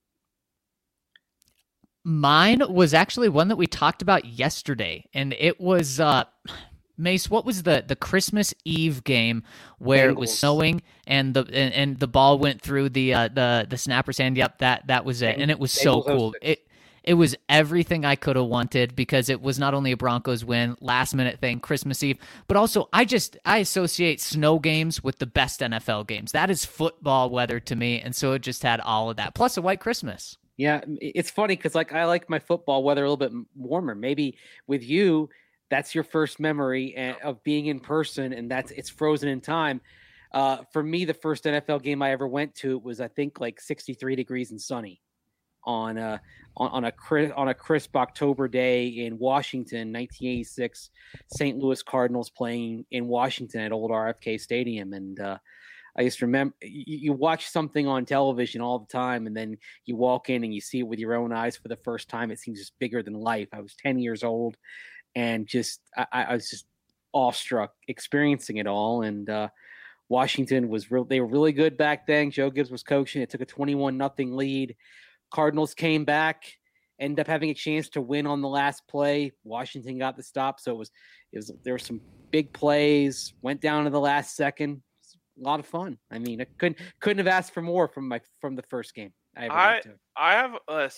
Mine was actually one that we talked about yesterday, and it was Mace. What was the Christmas Eve game where Bengals. It was snowing and the ball went through the snapper's hand? Yep, that was it, and it was so cool. It was everything I could have wanted because it was not only a Broncos win, last minute thing, Christmas Eve, but also I associate snow games with the best NFL games. That is football weather to me, and so it just had all of that, plus a white Christmas. Yeah, it's funny because like I like my football weather a little bit warmer. Maybe with you, that's your first memory of being in person, and it's frozen in time. For me, the first NFL game I ever went to was I think like 63 degrees and sunny on a crisp October day in Washington, 1986. St. Louis Cardinals playing in Washington at old RFK Stadium, and I just remember you watch something on television all the time, and then you walk in and you see it with your own eyes for the first time. It seems just bigger than life. I was 10 years old, and I was just awestruck experiencing it all. And Washington they were really good back then. Joe Gibbs was coaching. It took a 21-0 lead. Cardinals came back, ended up having a chance to win on the last play. Washington got the stop, so there were some big plays. Went down to the last second. A lot of fun. I mean, I couldn't have asked for more from the first game. I have a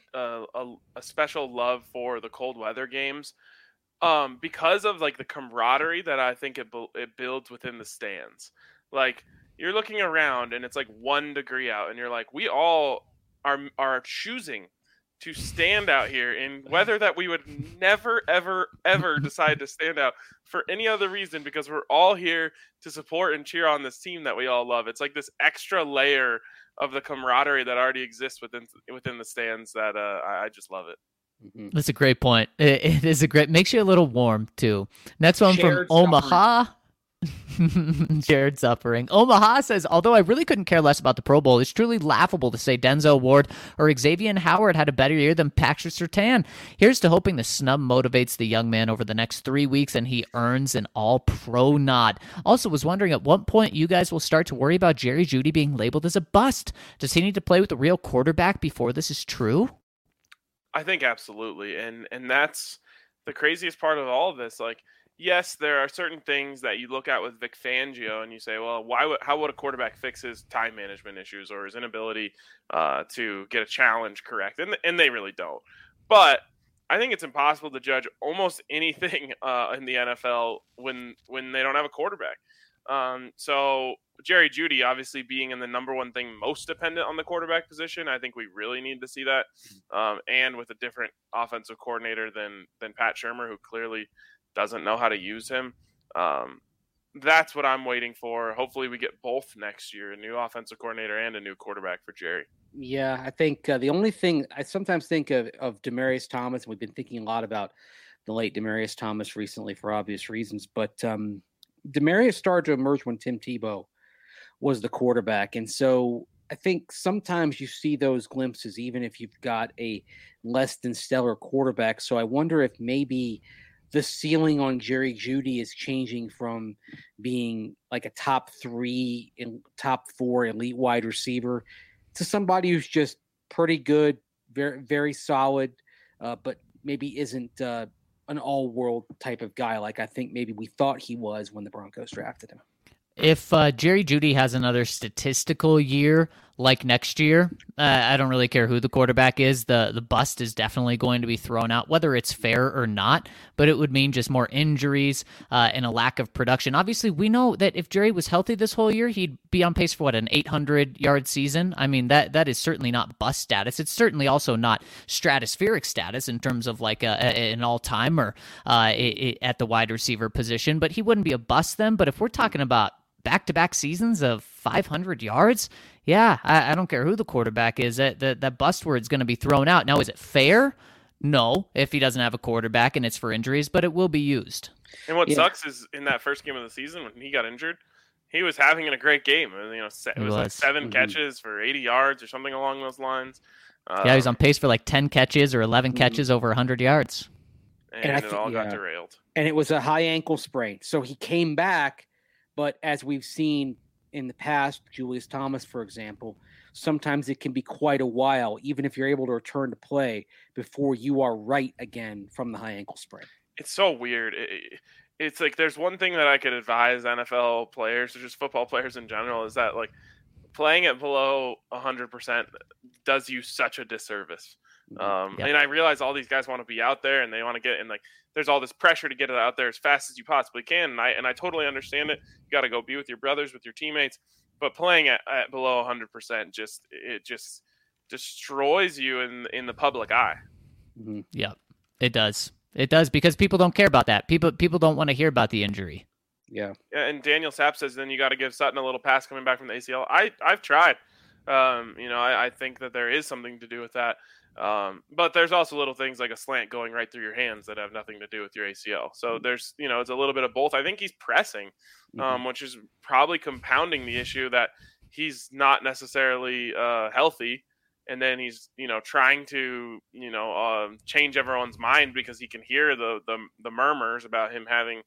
special love for the cold weather games, because of like the camaraderie that I think it builds within the stands. Like you're looking around and it's like 1 degree out, and you're like, we all are choosing to stand out here in weather that we would never, ever, ever decide to stand out for any other reason, because we're all here to support and cheer on this team that we all love. It's like this extra layer of the camaraderie that already exists within the stands that I just love it. Mm-hmm. That's a great point. It is makes you a little warm too. Next one Shared from Omaha. Jared Suffering. Omaha says, although I really couldn't care less about the Pro Bowl, it's truly laughable to say Denzel Ward or Xavier Howard had a better year than Patrick Surtain. Here's to hoping the snub motivates the young man over the next 3 weeks and he earns an all-pro nod. Also was wondering at what point you guys will start to worry about Jerry Jeudy being labeled as a bust. Does he need to play with a real quarterback before this is true? I think absolutely. And that's the craziest part of all of this. Like, yes, there are certain things that you look at with Vic Fangio and you say, well, how would a quarterback fix his time management issues or his inability to get a challenge correct? And they really don't. But I think it's impossible to judge almost anything in the NFL when they don't have a quarterback. So Jerry Jeudy obviously being in the number one thing most dependent on the quarterback position, I think we really need to see that. And with a different offensive coordinator than Pat Shurmur, who clearly doesn't know how to use him. That's what I'm waiting for. Hopefully we get both next year, a new offensive coordinator and a new quarterback for Jerry. Yeah, I think the only thing I sometimes think of Demaryius Thomas, and we've been thinking a lot about the late Demaryius Thomas recently for obvious reasons, but Demaryius started to emerge when Tim Tebow was the quarterback. And so I think sometimes you see those glimpses, even if you've got a less than stellar quarterback. So I wonder if maybe the ceiling on Jerry Jeudy is changing from being like a top 3 and top 4 elite wide receiver to somebody who's just pretty good, very, very solid, but maybe isn't an all-world type of guy like I think maybe we thought he was when the Broncos drafted him. If Jerry Jeudy has another statistical year like next year, I don't really care who the quarterback is. The bust is definitely going to be thrown out, whether it's fair or not, but it would mean just more injuries and a lack of production. Obviously, we know that if Jerry was healthy this whole year, he'd be on pace for an 800-yard season. I mean, that is certainly not bust status. It's certainly also not stratospheric status in terms of like an all-timer at the wide receiver position, but he wouldn't be a bust then. But if we're talking about back-to-back seasons of 500 yards, yeah, I don't care who the quarterback is. That bust word's going to be thrown out. Now, is it fair? No, if he doesn't have a quarterback and it's for injuries, but it will be used. And what sucks is in that first game of the season when he got injured, he was having a great game. It was like 7 catches for 80 yards or something along those lines. Yeah, he was on pace for like 10 catches or 11 catches over 100 yards. And it all got derailed. And it was a high ankle sprain. So he came back, but as we've seen in the past, Julius Thomas, for example, sometimes it can be quite a while, even if you're able to return to play before you are right again from the high ankle sprain. It's so weird. It's like there's one thing that I could advise NFL players or just football players in general is that like playing at below 100% does you such a disservice. And I realize all these guys want to be out there and they want to get in, like there's all this pressure to get it out there as fast as you possibly can. And I totally understand it. You got to go be with your brothers, with your teammates, but playing at below 100% just destroys you in the public eye. Mm-hmm. Yeah, it does. It does because people don't care about that. People don't want to hear about the injury. Yeah. And Daniel Sapp says then you got to give Sutton a little pass coming back from the ACL. I've tried. I think that there is something to do with that. But there's also little things like a slant going right through your hands that have nothing to do with your ACL. So there's, it's a little bit of both. I think he's pressing, which is probably compounding the issue that he's not necessarily healthy. And then he's, trying to, change everyone's mind because he can hear the murmurs about him having,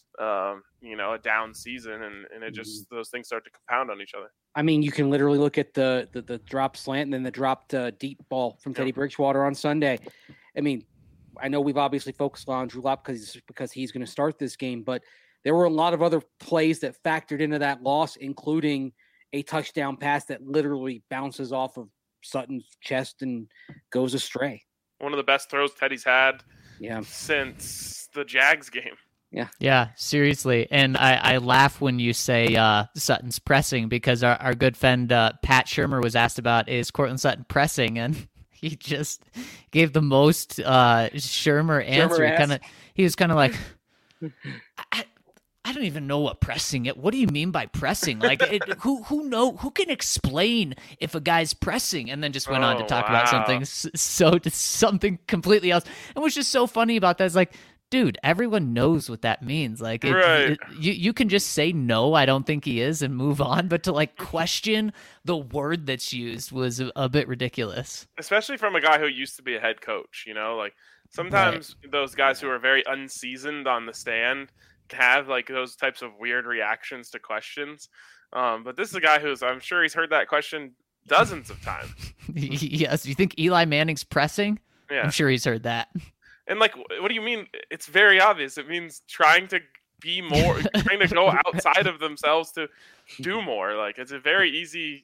a down season, and it just those things start to compound on each other. I mean, you can literally look at the drop slant and then the dropped deep ball from Teddy Bridgewater on Sunday. I mean, I know we've obviously focused on Drew Lock because he's going to start this game, but there were a lot of other plays that factored into that loss, including a touchdown pass that literally bounces off of Sutton's chest and goes astray. One of the best throws Teddy's had Yeah. since the Jags game. Yeah, seriously. And I laugh when you say Sutton's pressing, because our good friend Pat Shermer was asked about, is Cortland Sutton pressing? And he just gave the most Shermer answer. He was kind of like, I don't even know what pressing it. What do you mean by pressing? Like, who can explain if a guy's pressing? And then just went on to talk about something completely else. And what's just so funny about that is, like, dude, everyone knows what that means. Like, you can just say no, I don't think he is, and move on. But to like question the word that's used was a bit ridiculous. Especially from a guy who used to be a head coach. Like sometimes those guys who are very unseasoned on the stand have like those types of weird reactions to questions. But this is a guy I'm sure he's heard that question dozens of times. Yes. You think Eli Manning's pressing? Yeah. I'm sure he's heard that. And like, what do you mean? It's very obvious. It means trying to be more, trying to go outside of themselves to do more. Like, it's a very easy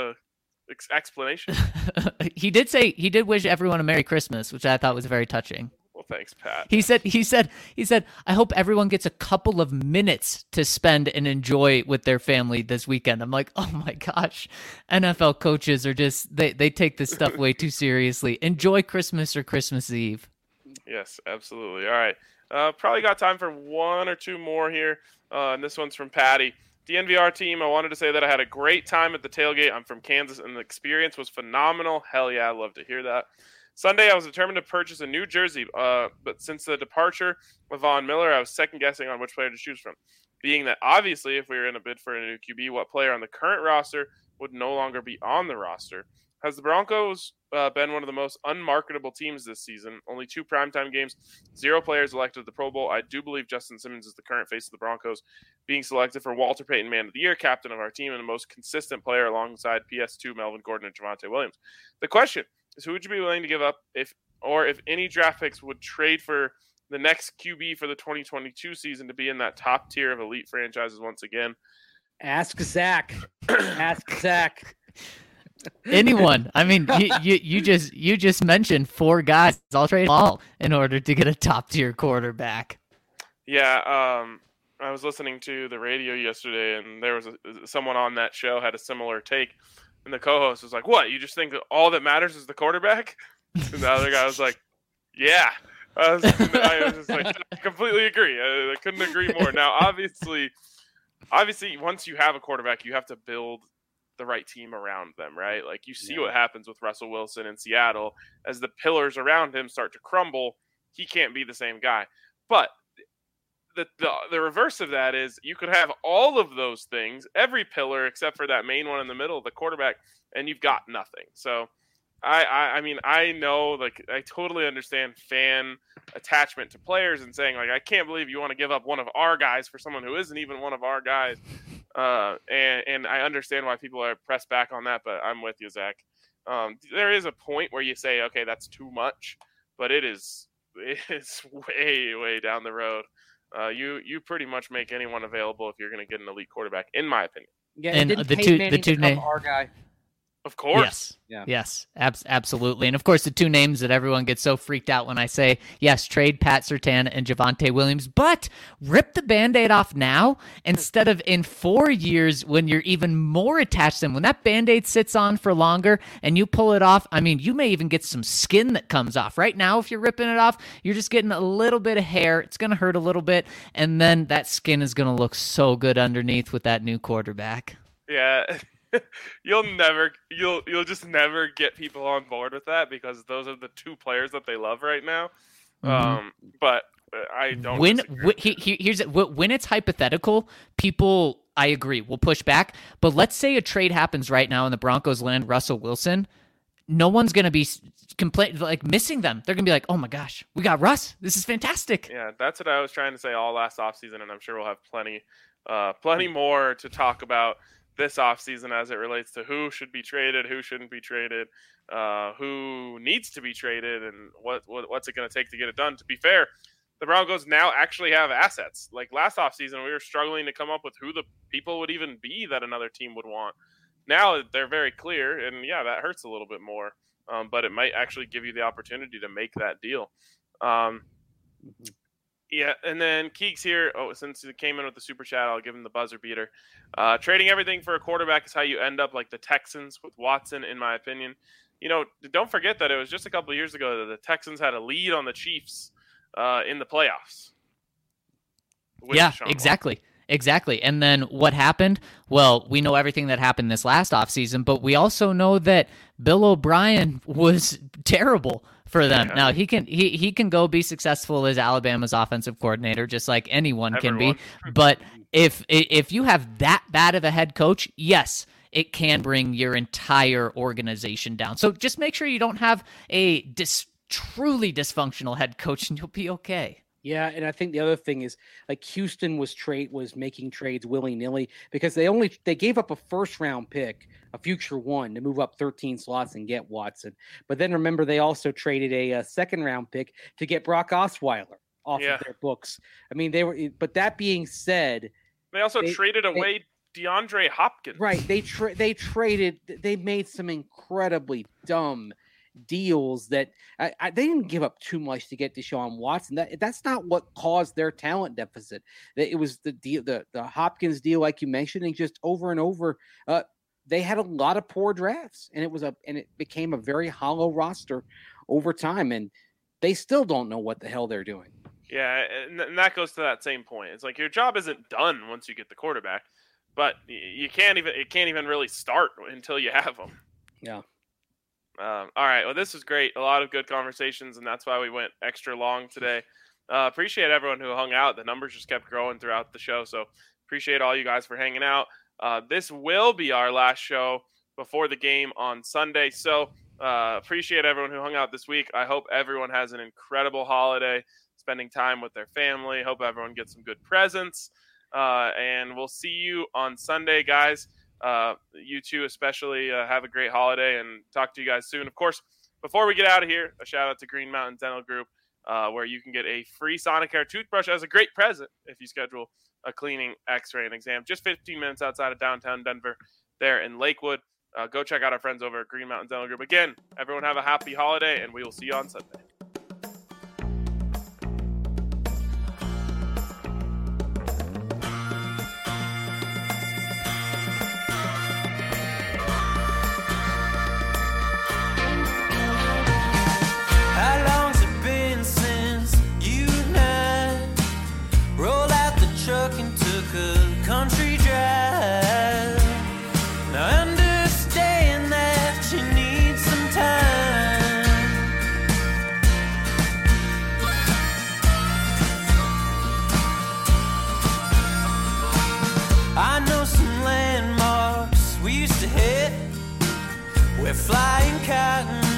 explanation. He did wish everyone a Merry Christmas, which I thought was very touching. Well, thanks, Pat. He said, I hope everyone gets a couple of minutes to spend and enjoy with their family this weekend. I'm like, oh my gosh, NFL coaches are just, they take this stuff way too seriously. Enjoy Christmas or Christmas Eve. Yes, absolutely. All right. Probably got time for one or two more here. And this one's from Patty. DNVR team, I wanted to say that I had a great time at the tailgate. I'm from Kansas, and the experience was phenomenal. Hell yeah, I'd love to hear that. Sunday, I was determined to purchase a new jersey, but since the departure of Von Miller, I was second-guessing on which player to choose from. Being that, obviously, if we were in a bid for a new QB, what player on the current roster would no longer be on the roster? Has the Broncos been one of the most unmarketable teams this season? Only 2 primetime games, 0 players elected to the Pro Bowl. I do believe Justin Simmons is the current face of the Broncos, being selected for Walter Payton Man of the Year, captain of our team, and the most consistent player alongside PS2, Melvin Gordon, and Javonte Williams. The question is, who would you be willing to give up if any draft picks would trade for the next QB for the 2022 season to be in that top tier of elite franchises once again? Ask Zach. Ask Zach. Anyone. I mean, you just mentioned 4 guys. I'll trade them all in order to get a top tier quarterback. Yeah, I was listening to the radio yesterday, and there was someone on that show had a similar take, and the co-host was like, "What? You just think that all that matters is the quarterback?" And the other guy was like, "Yeah." I was just like, I completely agree. I couldn't agree more. Now, obviously, once you have a quarterback, you have to build the right team around them, right? Like, you see what happens with Russell Wilson in Seattle. As the pillars around him start to crumble, he can't be the same guy. But the reverse of that is you could have all of those things, every pillar except for that main one in the middle, the quarterback, and you've got nothing. So I mean, I know, like, I totally understand fan attachment to players and saying, like, I can't believe you want to give up one of our guys for someone who isn't even one of our guys. And I understand why people are pressed back on that, but I'm with you, Zach. There is a point where you say, okay, that's too much, but it's way, way down the road. You pretty much make anyone available if you're going to get an elite quarterback, in my opinion. Yeah, and the two names, our guy. Of course. Yes, absolutely. And of course, the 2 names that everyone gets so freaked out when I say, yes, trade Pat Surtain and Javonte Williams, but rip the Band-Aid off now instead of in 4 years when you're even more attached to them. When that Band-Aid sits on for longer and you pull it off, I mean, you may even get some skin that comes off. Right now, if you're ripping it off, you're just getting a little bit of hair. It's going to hurt a little bit, and then that skin is going to look so good underneath with that new quarterback. Yeah. you'll just never get people on board with that because those are the two players that they love right now. But I don't. When it's hypothetical, people, I agree, will push back. But let's say a trade happens right now and the Broncos land Russell Wilson. No one's going to be missing them. They're going to be like, oh my gosh, we got Russ. This is fantastic. Yeah, that's what I was trying to say all last offseason, and I'm sure we'll have plenty more to talk about this offseason as it relates to who should be traded, who shouldn't be traded, who needs to be traded, and what's it going to take to get it done. To be fair, the Broncos now actually have assets. Like last offseason, we were struggling to come up with who the people would even be that another team would want. Now they're very clear, and yeah, that hurts a little bit more, but it might actually give you the opportunity to make that deal. Yeah, and then Keeks here, since he came in with the super chat, I'll give him the buzzer beater. Trading everything for a quarterback is how you end up like the Texans with Watson, in my opinion. You know, don't forget that it was just a couple of years ago that the Texans had a lead on the Chiefs in the playoffs. Yeah, exactly. Exactly. And then what happened? Well, we know everything that happened this last offseason, but we also know that Bill O'Brien was terrible for them. Yeah. Now, he can go be successful as Alabama's offensive coordinator, just like anyone can be. But if you have that bad of a head coach, yes, it can bring your entire organization down. So just make sure you don't have a truly dysfunctional head coach and you'll be okay. Yeah, and I think the other thing is like Houston was making trades willy-nilly because they gave up a first-round pick, a future one, to move up 13 slots and get Watson. But then remember, they also traded a second-round pick to get Brock Osweiler off of their books. I mean, but that being said, they also traded away DeAndre Hopkins. Right? They made some incredibly dumb deals that they didn't give up too much to get Deshaun Watson. That's not what caused their talent deficit. It was the deal, the Hopkins deal, like you mentioned, and just over and over. They had a lot of poor drafts, and it became a very hollow roster over time, and they still don't know what the hell they're doing. Yeah, and that goes to that same point. It's like your job isn't done once you get the quarterback, but it can't even really start until you have them. Yeah. All right. Well, this was great. A lot of good conversations, and that's why we went extra long today. Appreciate everyone who hung out. The numbers just kept growing throughout the show, so appreciate all you guys for hanging out. This will be our last show before the game on Sunday, so appreciate everyone who hung out this week. I hope everyone has an incredible holiday, spending time with their family. Hope everyone gets some good presents, and we'll see you on Sunday, guys. You two especially have a great holiday and talk to you guys soon. Of course, before we get out of here, a shout out to Green Mountain Dental Group, where you can get a free Sonicare toothbrush as a great present if you schedule a cleaning, x-ray, and exam. Just 15 minutes outside of downtown Denver there in Lakewood. Go check out our friends over at Green Mountain Dental Group. Again, everyone have a happy holiday, and we will see you on Sunday. Country drive. Now understand that you need some time. I know some landmarks we used to hit. We're flying cotton